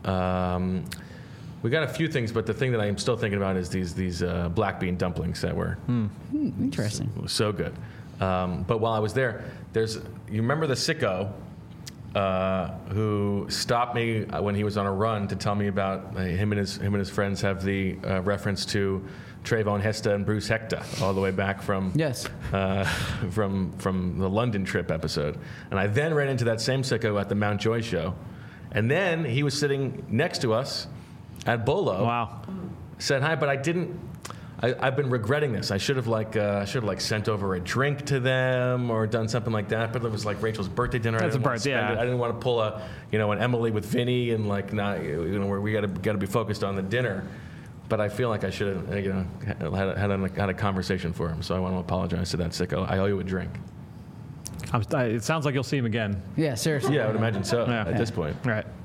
Um, we got a few things, but the thing that I'm still thinking about is these these uh, black bean dumplings that were Hmm, interesting. so good. Um, but while I was there, there's you remember the sicko uh, who stopped me when he was on a run to tell me about uh, him and his him and his friends have the uh, reference to Trayvon Hesta and Bruce Hector all the way back from Yes. uh, from from the London trip episode. And I then ran into that same sicko at the Mount Joy show, and then he was sitting next to us at Bolo. Wow. Said hi, but I didn't. I, I've been regretting this. I should have like uh, I should have like sent over a drink to them or done something like that. But it was like Rachel's birthday dinner. That's I didn't a want to birth- spend yeah. it. I didn't want to pull a you know an Emily with Vinny and like not you know where we got to got to be focused on the dinner. But I feel like I should have you know had a, had a, had a conversation for him. So I want to apologize to that sicko. I owe you a drink. I'm, I, it sounds like you'll see him again. Yeah, seriously. Yeah, I would imagine so. Yeah. At this point. All right.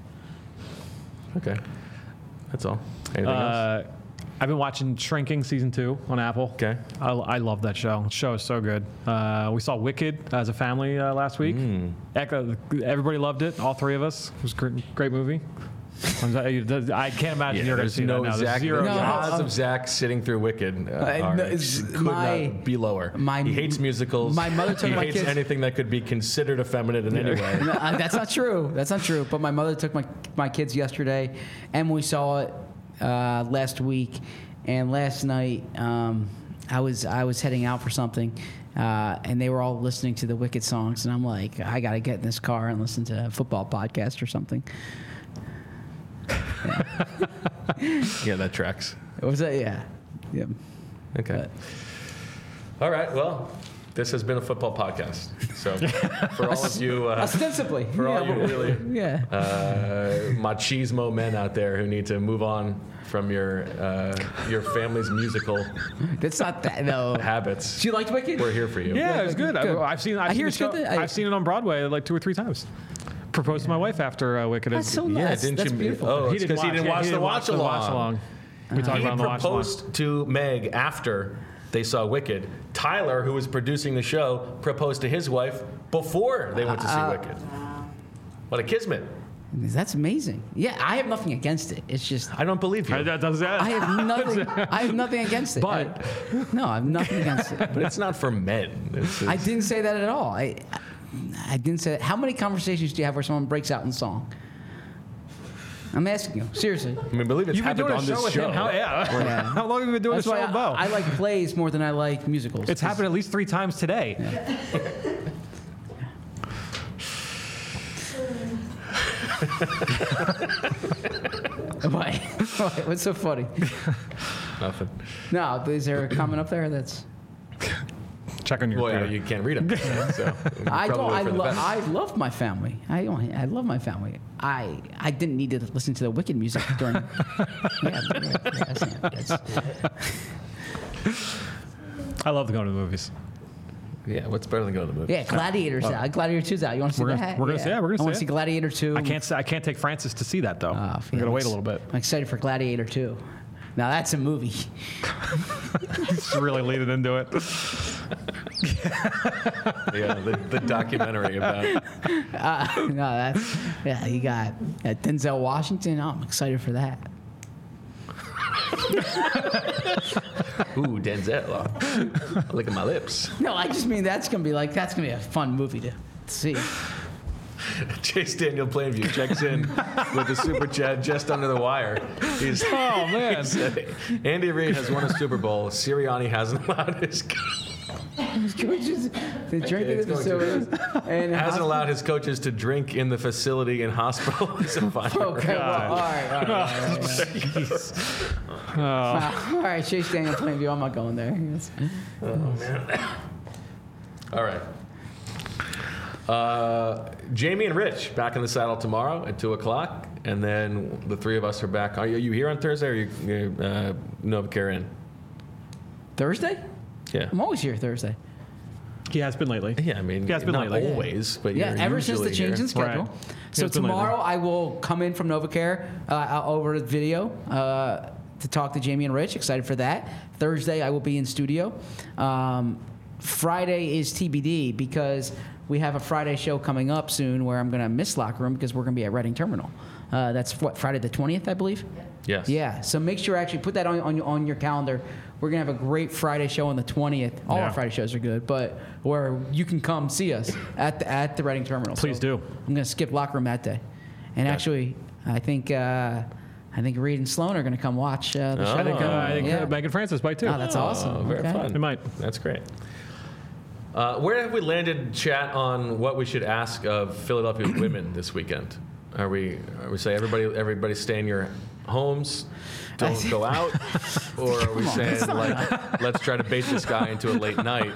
Okay, that's all. Anything else? Uh, I've been watching Shrinking season two on Apple. Okay. I, I love that show. The show is so good. Uh, we saw Wicked as a family uh, last week. Mm. Echo, everybody loved it. All three of us. It was a great, great movie. I'm sorry, I can't imagine you're going to there's see no that now. There's Zach. zero the No, chance. odds um, of Zach sitting through Wicked uh, Uh, are, no, it's could my- not be lower. my- he hates musicals. my mother took he my hates kids- anything that could be considered effeminate in any way. No, uh, that's not true. That's not true. But my mother took my my kids yesterday, and we saw it uh, last week. And last night, um, I was I was heading out for something, uh, and they were all listening to the Wicked songs, and I'm like, I got to get in this car and listen to a football podcast or something. Yeah, that tracks. Was that? Yeah, yeah. Okay. All right. Well, this has been a football podcast. So for all of you, uh, Ostensibly, for all yeah, you really yeah. uh, machismo men out there who need to move on from your uh, your family's musical That's not that. No. habits, Do you like Wicked? we're here for you. Yeah, it was good. Good. I, I've seen. I've I seen hear the it's good show- that I- I've seen it on Broadway like two or three times. Proposed to my wife after uh, Wicked. That's so Yeah, nice. didn't That's you? beautiful. Oh, he it's didn't because he didn't yeah, watch he the didn't watch the along. watch along. We talked He about it on the watch along. proposed to Meg after they saw Wicked. Tyler, who was producing the show, proposed to his wife before they went to see Uh, Wicked. What a kismet! That's amazing. Yeah, I have nothing against it. It's just I don't believe you. Uh, That does that. I have nothing. I have nothing against it. But- I- no, I have nothing against it. But it's not for men. It's, I it's- didn't say that at all. I, I didn't say that. How many conversations do you have where someone breaks out in song? I'm asking you seriously. I mean, believe it's You've been happened doing a on show this with show. him. How, yeah. Yeah. How long have you been doing That's a show why with Bo? I, I like plays more than I like musicals. It's happened at least three times today. Why? Why? What's so funny? Nothing. No, is there a comment up there that's? Check on your Well, yeah, computer. you can't read them. So I don't. probably I, for the lo- best. I love my family. I don't- I love my family. I I didn't need to listen to the Wicked music during. yeah, but, yeah, that's, that's, I love going to the movies. Yeah, what's better than going to the movie? yeah, Gladiator's out. Gladiator two's out. You want to see We're gonna- that? we're gonna see- yeah, we're gonna I want see to see it. Gladiator two. I can't. Say, I can't take Francis to see that though. Oh, I'm gonna wait a little bit. I'm excited for Gladiator two. Now that's a movie. Just really leaning into it. Yeah, the, the documentary about. Uh, no, that's yeah. You got uh, Denzel Washington. Oh, I'm excited for that. Ooh, Denzel. Oh, look at my lips. No, I just mean that's gonna be like that's gonna be a fun movie to see. Chase Daniel Plainview checks in with the super chat just under the wire. He's, Oh man. he said, Andy Reid has won a Super Bowl. Sirianni hasn't allowed his. His coaches, they drink in the It's going facilities. And Hasn't allowed his coaches to drink in the facility in hospital. He's a fine. Okay, well, all right, all right. All right, all right. All right, Chase Daniel Plainview. I'm not going there. Yes. Oh, man. All right. Uh, Jamie and Rich back in the saddle tomorrow at two o'clock, and then the three of us are back. Are you here on Thursday, or are you, you uh, NovaCare in? Thursday? Yeah. I'm always here Thursday. He has been lately. Yeah, I mean, He has been not lately. always, but Yeah, you're ever since the usually change here. in schedule. Right. So It's been tomorrow lately. I will come in from NovaCare uh, over video uh, to talk to Jamie and Rich. Excited for that. Thursday I will be in studio. Um, Friday is T B D because we have a Friday show coming up soon where I'm going to miss Locker Room because we're going to be at Reading Terminal. Uh, that's what, Friday the twentieth, I believe? Yes. Yeah, so make sure actually put that on, on, your- on your calendar. We're going to have a great Friday show on the twentieth. All Yeah. our Friday shows are good, but where you can come see us at the, at the Reading Terminal. Please So do. I'm going to skip Locker Room that day. And actually, I think uh, I think Reed and Sloan are going to come watch uh, the Oh. show. I think, uh, I think Yeah. uh, Megan Francis might too. Oh, that's awesome. Oh, very Okay. fun. It might. That's great. Uh, where have we landed, chat, on what we should ask of Philadelphia women this weekend? Are we are we say everybody everybody stay in your homes, don't go out, or are we saying like let's try to bait this guy into a late night?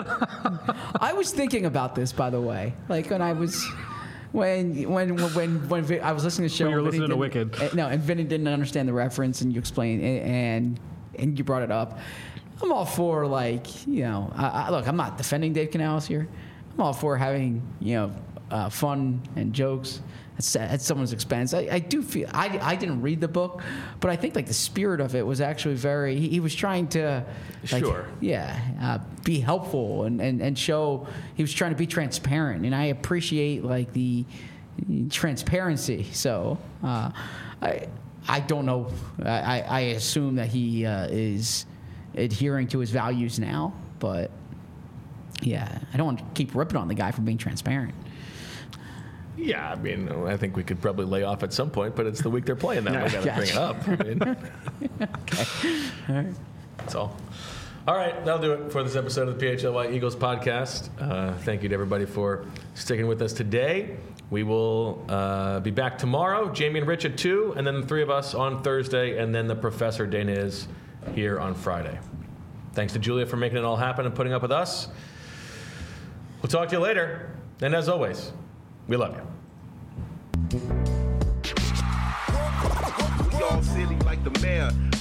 I was thinking about this, by the way. Like when I was, when when when when Vi- I was listening to the show. When you were Vinny listening to didn't- Wicked. uh, No, and Vinny didn't understand the reference, and you explained, and and, and you brought it up. I'm all for like you know. I, I, look, I'm not defending Dave Canales here. I'm all for having you know uh, fun and jokes at, at someone's expense. I, I do feel I, I didn't read the book, but I think like the spirit of it was actually very. He, he was trying to, like, Sure. yeah, uh, be helpful and, and, and show. He was trying to be transparent, and I appreciate like the transparency. So uh, I I don't know. I, I assume that he uh, is adhering to his values now, but yeah, I don't want to keep ripping on the guy for being transparent. Yeah, I mean, I think we could probably lay off at some point, but it's the week they're playing that. We got to bring it up. I mean, Okay. All right. that's all. All right, that'll do it for this episode of the P H L Y Eagles podcast. Uh, thank you to everybody for sticking with us today. We will uh, be back tomorrow, Jamie and Rich at two, and then the three of us on Thursday, and then the Professor Dana is here on Friday. Thanks to Julia for making it all happen and putting up with us. We'll talk to you later. And as always, we love you. We all silly like the mayor.